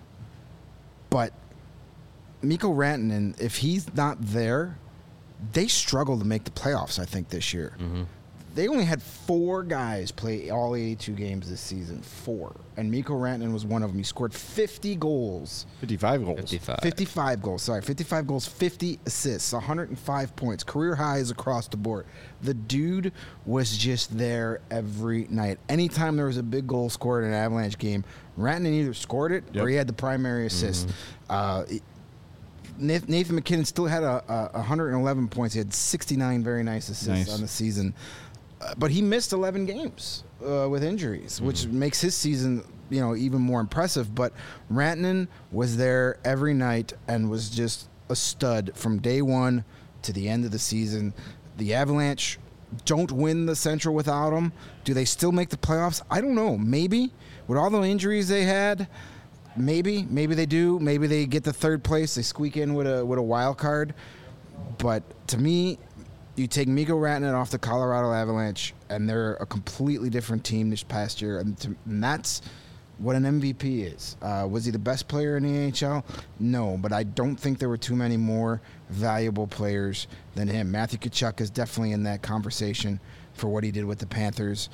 Speaker 3: But Mikko Rantanen, if he's not there, they struggle to make the playoffs, I think, this year. Mm-hmm. They only had 4 guys play all 82 games this season. 4. And Mikko Rantanen was one of them. He scored 50 goals.
Speaker 1: 55 goals.
Speaker 3: 55 goals. Sorry, 55 goals, 50 assists, 105 points. Career highs across the board. The dude was just there every night. Anytime there was a big goal scored in an Avalanche game, Rantanen either scored it or he had the primary assist. Mm-hmm. Nathan MacKinnon still had 111 points. He had 69 very nice assists on the season. But he missed 11 games with injuries, which makes his season, even more impressive. But Rantanen was there every night and was just a stud from day one to the end of the season. The Avalanche don't win the Central without him. Do they still make the playoffs? I don't know. Maybe. With all the injuries they had, maybe they do. Maybe they get the third place. They squeak in with a wild card. But to me, you take Mikko Rantanen off the Colorado Avalanche, and they're a completely different team this past year, and that's what an MVP is. Was he the best player in the AHL? No, but I don't think there were too many more valuable players than him. Matthew Tkachuk is definitely in that conversation for what he did with the Panthers,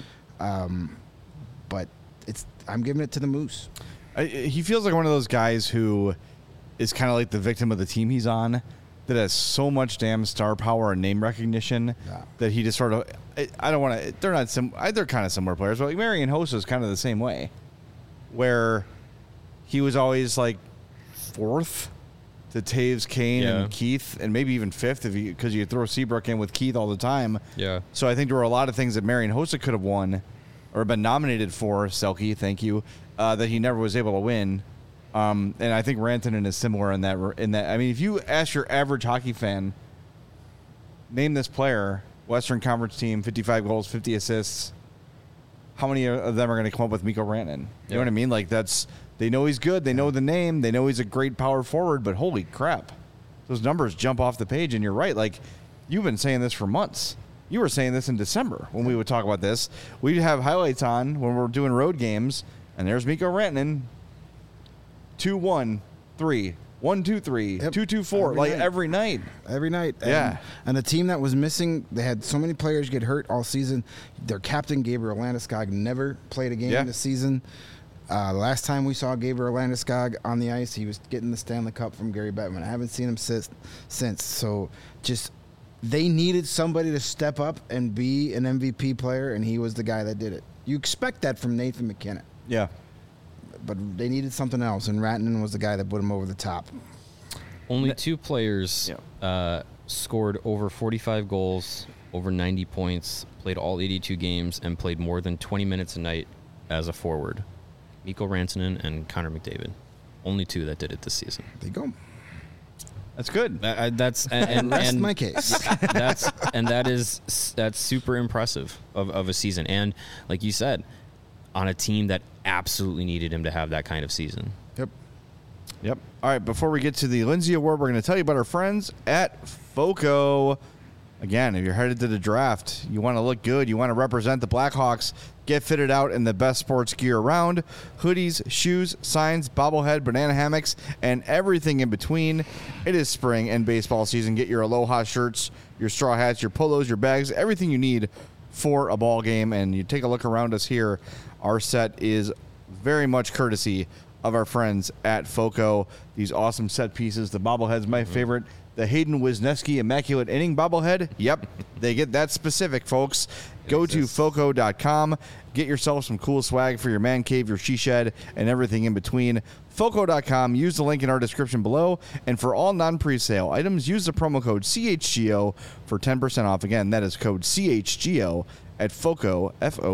Speaker 3: but I'm giving it to the Moose.
Speaker 1: He feels like one of those guys who is kind of like the victim of the team he's on, that has so much damn star power and name recognition that he just sort of. I don't want to. They're not. They're kind of similar players, but like Marian Hossa is kind of the same way, where he was always like fourth to Taves, Kane, and Keith, and maybe even fifth because you throw Seabrook in with Keith all the time.
Speaker 2: Yeah.
Speaker 1: So I think there were a lot of things that Marian Hossa could have won or been nominated for. Selke, thank you, that he never was able to win. And I think Rantanen is similar in that. I mean, if you ask your average hockey fan, name this player, Western Conference team, 55 goals, 50 assists, how many of them are going to come up with Mikko Rantanen? You know what I mean? Like, they know he's good. They know the name. They know he's a great power forward. But holy crap, those numbers jump off the page. And you're right. Like, you've been saying this for months. You were saying this in December when we would talk about this. We'd have highlights on when we're doing road games, and there's Mikko Rantanen. 2-1-3, 1-2-3, 2-2-4, like every night.
Speaker 3: Every night.
Speaker 1: Yeah.
Speaker 3: And the team that was missing, they had so many players get hurt all season. Their captain, Gabriel Landeskog, never played a game this season. Last time we saw Gabriel Landeskog on the ice, he was getting the Stanley Cup from Gary Bettman. I haven't seen him since. So just they needed somebody to step up and be an MVP player, and he was the guy that did it. You expect that from Nathan McKinnon.
Speaker 1: Yeah.
Speaker 3: But they needed something else, and Rantanen was the guy that put him over the top.
Speaker 2: Only two players scored over 45 goals, over 90 points, played all 82 games, and played more than 20 minutes a night as a forward. Mikko Rantanen and Connor McDavid. Only two that did it this season.
Speaker 3: There you go.
Speaker 1: That's good.
Speaker 3: Rest my case.
Speaker 2: That's super impressive of a season. And like you said, on a team that absolutely needed him to have that kind of season.
Speaker 1: Yep. All right, before we get to the Lindsay Award, we're going to tell you about our friends at FOCO. Again, if you're headed to the draft, you want to look good, you want to represent the Blackhawks, get fitted out in the best sports gear around. Hoodies, shoes, signs, bobblehead, banana hammocks, and everything in between. It is spring and baseball season. Get your Aloha shirts, your straw hats, your polos, your bags, everything you need for a ball game. And you take a look around us here. Our set is very much courtesy of our friends at FOCO. These awesome set pieces. The bobblehead's my favorite. The Hayden Wisniewski Immaculate Inning bobblehead. Yep, they get that specific, folks. Go to FOCO.com. Get yourself some cool swag for your man cave, your she shed, and everything in between. FOCO.com. Use the link in our description below. And for all non-presale items, use the promo code CHGO for 10% off. Again, that is code CHGO at FOCO,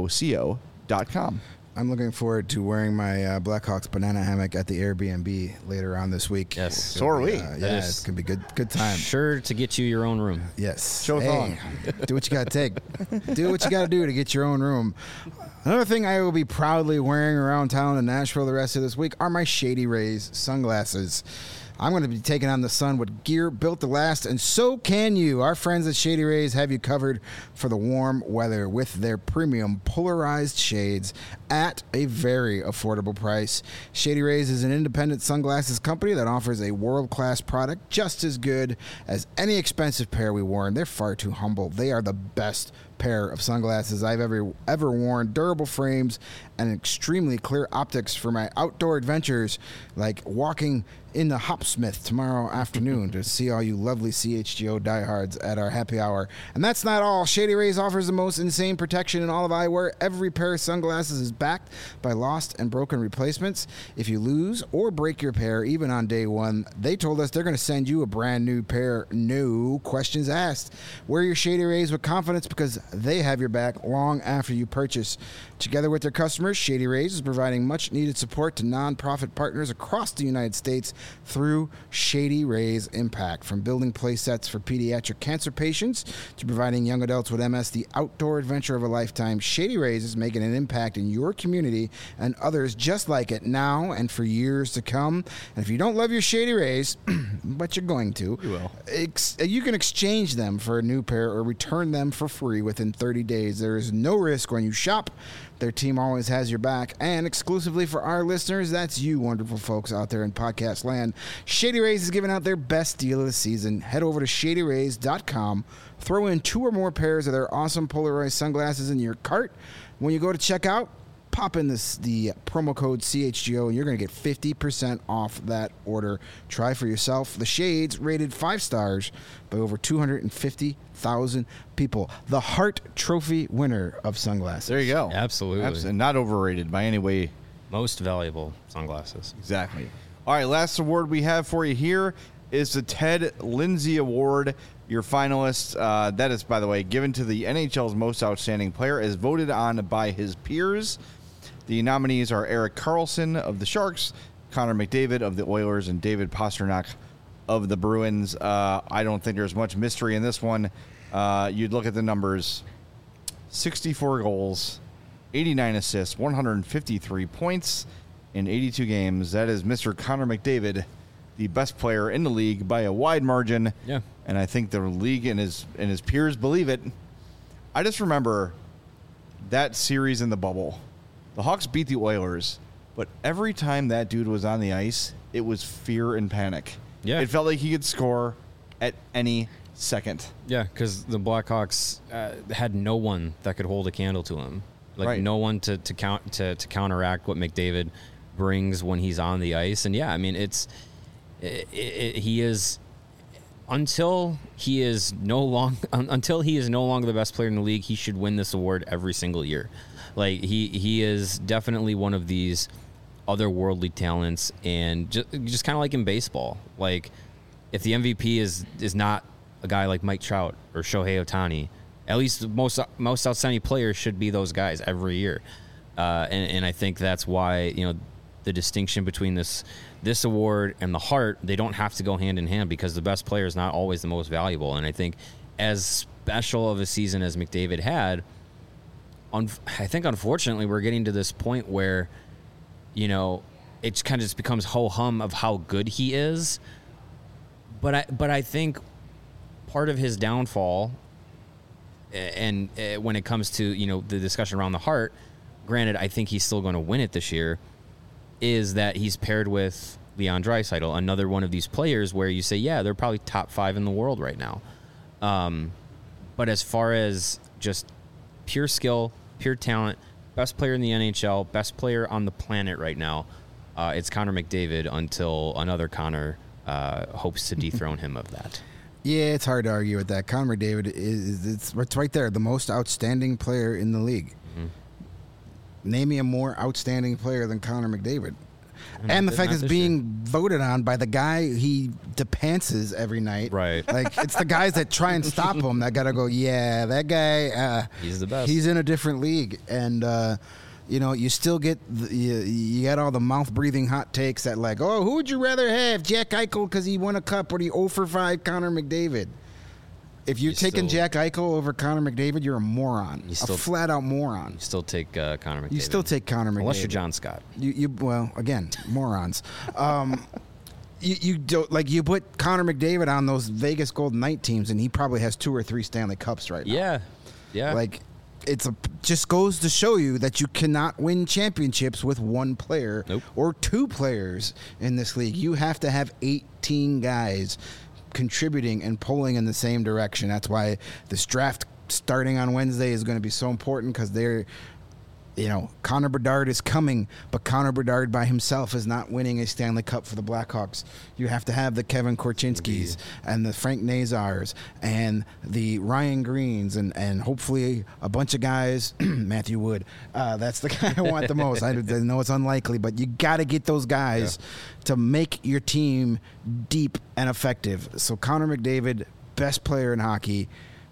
Speaker 1: FOCO.com.
Speaker 3: I'm looking forward to wearing my Blackhawks banana hammock at the Airbnb later on this week.
Speaker 2: Yes.
Speaker 1: So are we.
Speaker 3: It's going to be good time.
Speaker 2: Sure to get you your own room.
Speaker 3: Yes.
Speaker 1: Show thong.
Speaker 3: Do what you got to take. Do what you got to do to get your own room. Another thing I will be proudly wearing around town in Nashville the rest of this week are my Shady Rays sunglasses. I'm going to be taking on the sun with gear built to last, and so can you. Our friends at Shady Rays have you covered for the warm weather with their premium polarized shades at a very affordable price. Shady Rays is an independent sunglasses company that offers a world-class product just as good as any expensive pair we wore, and they're far too humble. They are the best pair of sunglasses I've ever worn. Durable frames and extremely clear optics for my outdoor adventures, like walking in the Hopsmith tomorrow afternoon to see all you lovely CHGO diehards at our happy hour. And that's not all. Shady Rays offers the most insane protection in all of eyewear. Every pair of sunglasses is backed by lost and broken replacements. If you lose or break your pair, even on day one, they told us they're going to send you a brand new pair, no questions asked. Wear your Shady Rays with confidence because they have your back long after you purchase. Together with their customers, Shady Rays is providing much-needed support to nonprofit partners across the United States through Shady Rays Impact. From building play sets for pediatric cancer patients to providing young adults with MS the outdoor adventure of a lifetime, Shady Rays is making an impact in your community and others just like it now and for years to come. And if you don't love your Shady Rays, but you're going to,
Speaker 1: You will.
Speaker 3: You can exchange them for a new pair or return them for free within 30 days. There is no risk when you shop. Their team always has your back. And exclusively for our listeners, that's you wonderful folks out there in podcast land, Shady Rays is giving out their best deal of the season. Head over to shadyrays.com. Throw in 2 or more pairs of their awesome Polaroid sunglasses in your cart. When you go to checkout, pop in the promo code CHGO, and you're going to get 50% off that order. Try for yourself. The Shades, rated 5 stars by over 250,000 people. The Hart Trophy winner of sunglasses.
Speaker 1: There you go.
Speaker 2: Absolutely.
Speaker 1: And not overrated by any way.
Speaker 2: Most valuable sunglasses.
Speaker 1: Exactly. All right, last award we have for you here is the Ted Lindsay Award. Your finalist, that is, by the way, given to the NHL's most outstanding player, as voted on by his peers. The nominees are Erik Karlsson of the Sharks, Connor McDavid of the Oilers, and David Pastrnak of the Bruins. I don't think there's much mystery in this one. You'd look at the numbers: 64 goals, 89 assists, 153 points in 82 games. That is Mr. Connor McDavid, the best player in the league by a wide margin.
Speaker 2: Yeah.
Speaker 1: And I think the league and his peers believe it. I just remember that series in the bubble. The Hawks beat the Oilers, but every time that dude was on the ice, it was fear and panic.
Speaker 2: Yeah.
Speaker 1: It felt like he could score at any second.
Speaker 2: Yeah, because the Blackhawks had no one that could hold a candle to him. Like
Speaker 1: Right.
Speaker 2: no one to counteract what McDavid brings when he's on the ice. And yeah, I mean he is until he is no longer the best player in the league, he should win this award every single year. Like he is definitely one of these otherworldly talents, and just kind of like in baseball. Like if the MVP is not a guy like Mike Trout or Shohei Ohtani, at least the most outstanding players should be those guys every year. And I think that's why, the distinction between this award and the Hart, they don't have to go hand in hand, because the best player is not always the most valuable. And I think as special of a season as McDavid had, I think unfortunately we're getting to this point where, it kind of just becomes ho-hum of how good he is. But I think part of his downfall, and when it comes to the discussion around the Hart, granted I think he's still going to win it this year, is that he's paired with Leon Draisaitl, another one of these players where you say, yeah, they're probably top 5 in the world right now. But as far as just pure skill, pure talent, best player in the NHL, best player on the planet right now, it's Connor McDavid until another Connor hopes to dethrone him of that.
Speaker 3: Yeah, it's hard to argue with that. Connor McDavid it's right there, the most outstanding player in the league. Mm-hmm. Name me a more outstanding player than Connor McDavid. And the fact it's being voted on by the guy he depantses every night.
Speaker 2: Right.
Speaker 3: Like, it's the guys that try and stop him that got to go, yeah, that guy,
Speaker 2: he's the best.
Speaker 3: He's in a different league. And, you still get, you got all the mouth-breathing hot takes that like, oh, who would you rather have, Jack Eichel because he won a cup, or the 0-for-5 Connor McDavid? If you're taking Jack Eichel over Connor McDavid, you're a moron. A flat-out moron.
Speaker 2: You still take Connor McDavid.
Speaker 3: You still take Connor McDavid.
Speaker 2: Unless you're John Scott.
Speaker 3: Well, again, morons. You don't, like, you put Connor McDavid on those Vegas Golden Knight teams, and he probably has 2 or 3 Stanley Cups right now.
Speaker 2: Yeah.
Speaker 3: Like, just goes to show you that you cannot win championships with one player or 2 players in this league. You have to have 18 guys contributing and pulling in the same direction. That's why this draft starting on Wednesday is going to be so important, because they're, Connor Bedard is coming, but Connor Bedard by himself is not winning a Stanley Cup for the Blackhawks. You have to have the Kevin Korchinskis and the Frank Nazars and the Ryan Greens and hopefully a bunch of guys, Matthew Wood. That's the guy I want the most. I know it's unlikely, but you got to get those guys to make your team deep and effective. So Connor McDavid, best player in hockey,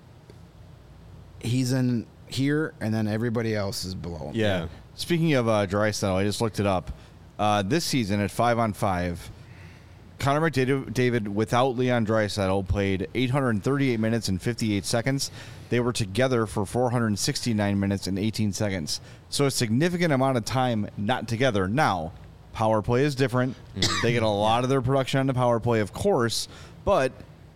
Speaker 3: he's in here, and then everybody else is below him.
Speaker 1: Yeah. Speaking of Draisaitl, I just looked it up. This season at 5-on-5, Connor McDavid without Leon Draisaitl played 838 minutes and 58 seconds. They were together for 469 minutes and 18 seconds. So a significant amount of time not together. Now, power play is different. They get a lot of their production on the power play, of course, but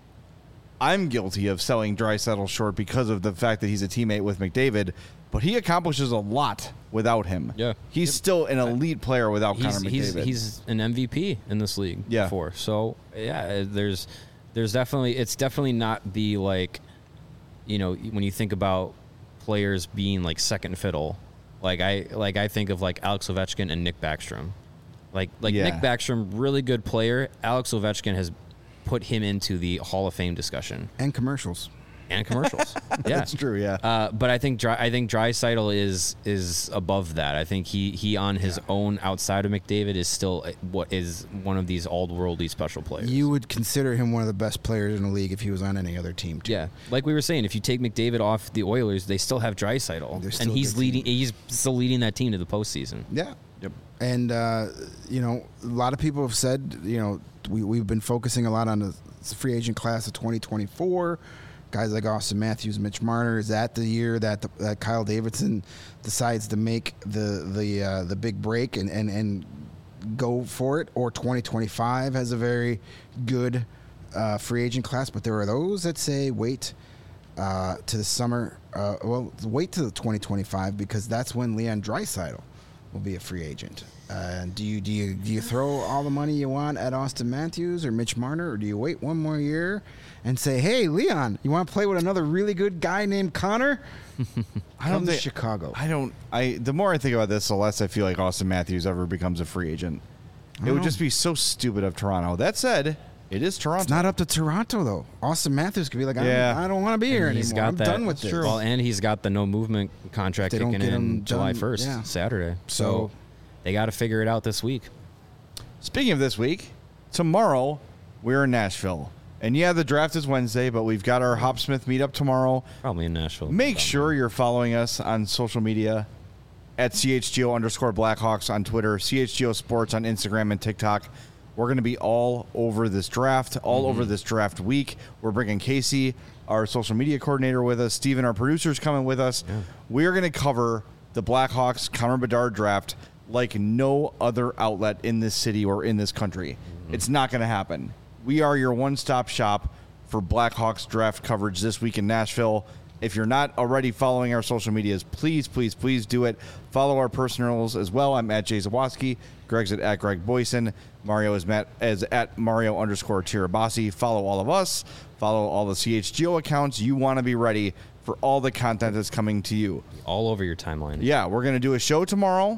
Speaker 1: I'm guilty of selling Draisaitl short because of the fact that he's a teammate with McDavid, but he accomplishes a lot without him.
Speaker 2: Yeah.
Speaker 1: He's still an elite player without Connor McDavid.
Speaker 2: He's an MVP in this league
Speaker 1: Yeah.
Speaker 2: before. So, yeah, there's definitely, it's definitely not the, like, you know, when you think about players being like second fiddle, like I think of like Alex Ovechkin and Nick Backstrom. Like
Speaker 1: Yeah.
Speaker 2: Nick Backstrom, really good player. Alex Ovechkin has put him into the Hall of Fame discussion
Speaker 3: And commercials.
Speaker 2: and commercials. Yeah,
Speaker 1: That's true, yeah.
Speaker 2: but I think Draisaitl is above that. I think he on his own outside of McDavid is still what is one of these all-worldly special players.
Speaker 3: You would consider him one of the best players in the league if he was on any other team, too.
Speaker 2: Yeah, like we were saying, if you take McDavid off the Oilers, they still have Draisaitl,
Speaker 3: They're still
Speaker 2: and
Speaker 3: a
Speaker 2: he's
Speaker 3: good
Speaker 2: leading.
Speaker 3: team.
Speaker 2: He's still leading that team to the postseason.
Speaker 3: Yeah.
Speaker 1: Yep.
Speaker 3: And, you know, a lot of people have said, you know, we've been focusing a lot on the free agent class of 2024. Guys like Austin Matthews, Mitch Marner. Is that the year that that Kyle Davidson decides to make the big break and go for it? Or 2025 has a very good free agent class, but there are those that say wait to the summer. Wait to the 2025 because that's when Leon Draisaitl will be a free agent. Do you throw all the money you want at Austin Matthews or Mitch Marner, or do you wait one more year and say, hey, Leon, you want to play with another really good guy named Connor?
Speaker 1: I don't
Speaker 3: Come to
Speaker 1: think
Speaker 3: Chicago.
Speaker 1: The more I think about this, the less I feel like Austin Matthews ever becomes a free agent. It would just be so stupid of Toronto. That said, it is Toronto.
Speaker 3: It's not up to Toronto, though. Austin Matthews could be like, I don't want to be here
Speaker 2: And
Speaker 3: anymore. I'm done with this.
Speaker 2: Well, and he's got the no movement contract
Speaker 3: They don't
Speaker 2: kicking
Speaker 3: get him
Speaker 2: in July
Speaker 3: done,
Speaker 2: 1st,
Speaker 3: yeah.
Speaker 2: Saturday.
Speaker 3: So
Speaker 2: they got to figure it out this week.
Speaker 1: Speaking of this week, tomorrow we're in Nashville. And yeah, the draft is Wednesday, but we've got our Hopsmith meetup tomorrow.
Speaker 2: Probably in Nashville.
Speaker 1: Make sure you're following us on social media at CHGO_Blackhawks on Twitter, CHGO Sports on Instagram and TikTok. We're going to be all over this draft, all over this draft week. We're bringing Casey, our social media coordinator, with us. Steven, our producer's coming with us. Yeah. We're going to cover the Blackhawks Connor Bedard draft like no other outlet in this city or in this country. It's not going to happen. We are your one-stop shop for Blackhawks draft coverage this week in Nashville. If you're not already following our social medias, please, please, please do it. Follow our personals as well. I'm at Jay Zawoski. Greg's at Greg Boyson. Mario is at Mario_Tirabassi. Follow all of us. Follow all the CHGO accounts. You want to be ready for all the content that's coming to you.
Speaker 2: All over your timeline.
Speaker 1: Yeah, we're going to do a show tomorrow.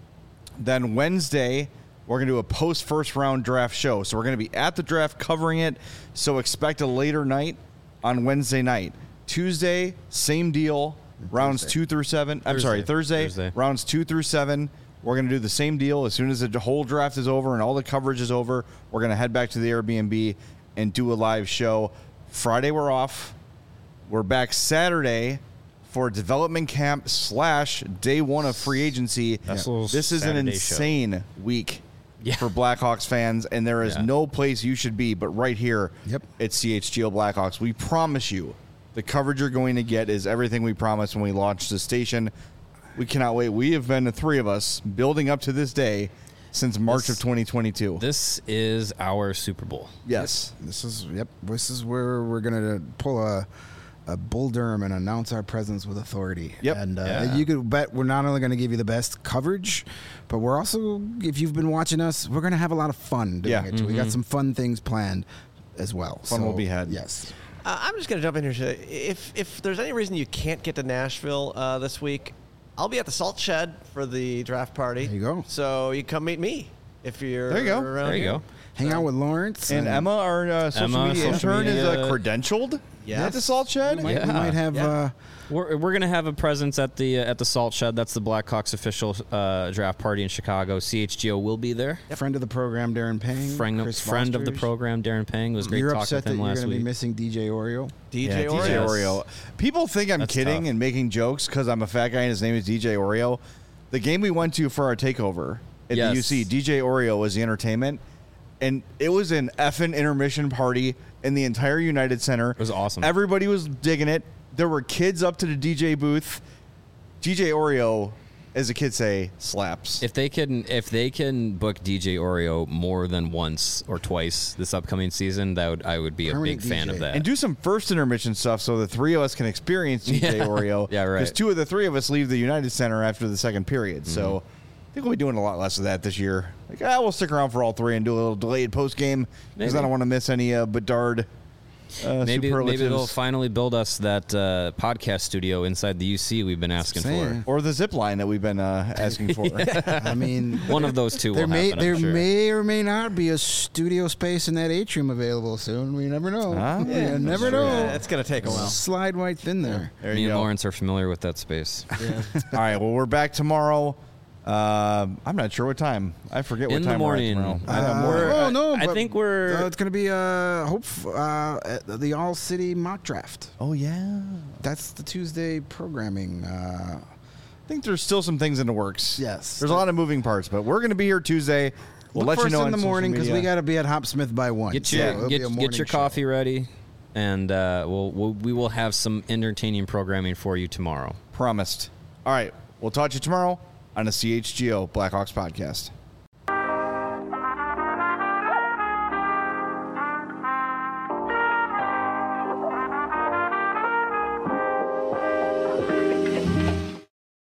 Speaker 1: Then Wednesday, we're going to do a post-first round draft show. So we're going to be at the draft covering it. So expect a later night on Wednesday night. Tuesday, same deal. Rounds 2 through 7. I'm sorry, Thursday. Rounds 2 through 7. We're going to do the same deal. As soon as the whole draft is over and all the coverage is over, we're going to head back to the Airbnb and do a live show. Friday, we're off. We're back Saturday for development camp / day one of free agency. This is an insane week for Blackhawks fans, and there is no place you should be but right here at CHGO Blackhawks. We promise you the coverage you're going to get is everything we promised when we launched the station. We cannot wait. We have been, the three of us, building up to this day since March of 2022.
Speaker 2: This is our Super Bowl.
Speaker 1: Yes.
Speaker 3: This is where we're going to pull a Bull Durham and announce our presence with authority.
Speaker 1: Yep.
Speaker 3: And you could bet we're not only going to give you the best coverage, but we're also, if you've been watching us, we're going to have a lot of fun doing it too. We got some fun things planned as well.
Speaker 1: Fun will be had.
Speaker 3: Yes.
Speaker 4: I'm just going to jump in here. If there's any reason you can't get to Nashville this week, I'll be at the Salt Shed for the draft party.
Speaker 3: There you go.
Speaker 4: So you come meet me if you're
Speaker 1: there you go.
Speaker 4: around
Speaker 2: There you
Speaker 4: here.
Speaker 2: go.
Speaker 3: Hang out with Lawrence.
Speaker 1: And Emma, our social media intern, is credentialed at the Salt Shed.
Speaker 3: We might have...
Speaker 2: We're going to have a presence at the Salt Shed. That's the Blackhawks official draft party in Chicago. CHGO will be there.
Speaker 3: Friend of the program, Darren Pang.
Speaker 2: Friend of the program, Darren Pang. It was great
Speaker 3: You're
Speaker 2: talking
Speaker 3: upset
Speaker 2: with him
Speaker 3: that you're
Speaker 2: last
Speaker 3: going to be
Speaker 2: week.
Speaker 3: missing DJ Oreo?
Speaker 4: DJ
Speaker 1: Oreo. People think I'm kidding and making jokes because I'm a fat guy and his name is DJ Oreo. The game we went to for our takeover at the UC, DJ Oreo was the entertainment. and it was an effing intermission party in the entire United Center. It
Speaker 2: was awesome.
Speaker 1: Everybody was digging it. There were kids up to the DJ booth. DJ Oreo, as the kids say, slaps.
Speaker 2: If they can book DJ Oreo more than once or twice this upcoming season, I would be a
Speaker 3: Permanent
Speaker 2: big fan
Speaker 3: DJ.
Speaker 2: of that.
Speaker 1: And do some first intermission stuff so the three of us can experience DJ
Speaker 2: Yeah.
Speaker 1: Oreo.
Speaker 2: Yeah, right.
Speaker 1: Because two of the three of us leave the United Center after the second period. So I think we'll be doing a lot less of that this year. Like, we'll stick around for all three and do a little delayed post game because I
Speaker 2: Maybe.
Speaker 1: don't want to miss any Bedard
Speaker 2: Maybe
Speaker 1: superlatives.
Speaker 2: they'll finally build us that podcast studio inside the UC we've been asking
Speaker 3: Saying.
Speaker 1: Or the zip line that we've been asking for.
Speaker 3: I mean,
Speaker 2: for. One of those two
Speaker 3: there
Speaker 2: will
Speaker 3: may
Speaker 2: happen, I'm
Speaker 3: there
Speaker 2: sure.
Speaker 3: may or may not be a studio space in that atrium available soon. We never know.
Speaker 1: Ah,
Speaker 3: you never
Speaker 1: sure.
Speaker 3: know.
Speaker 4: Yeah, it's going to take a while.
Speaker 3: Slide right thin there.
Speaker 1: There
Speaker 2: Me
Speaker 1: you
Speaker 2: and
Speaker 1: go.
Speaker 2: Lawrence are familiar with that space.
Speaker 1: All right, well, we're back tomorrow. I'm not sure what time. I forget what
Speaker 2: In the
Speaker 1: time
Speaker 2: morning.
Speaker 1: we're at tomorrow.
Speaker 3: Oh no!
Speaker 2: I
Speaker 3: but,
Speaker 2: think we're-
Speaker 3: it's going to be the All City mock draft.
Speaker 1: Oh, yeah.
Speaker 3: That's the Tuesday programming.
Speaker 1: I think there's still some things in the works.
Speaker 3: Yes.
Speaker 1: There's a lot of moving parts, but we're going to be here Tuesday. We'll
Speaker 3: Look
Speaker 1: let
Speaker 3: for
Speaker 1: you know
Speaker 3: us in the
Speaker 1: on social
Speaker 3: morning because we
Speaker 1: media.
Speaker 3: got to be at Hopsmith by 1.
Speaker 2: Get
Speaker 3: So
Speaker 2: your
Speaker 3: it'll be a
Speaker 2: get
Speaker 3: morning
Speaker 2: your
Speaker 3: show.
Speaker 2: coffee ready, and we will have some entertaining programming for you tomorrow.
Speaker 1: Promised. All right. We'll talk to you tomorrow on the CHGO Blackhawks podcast.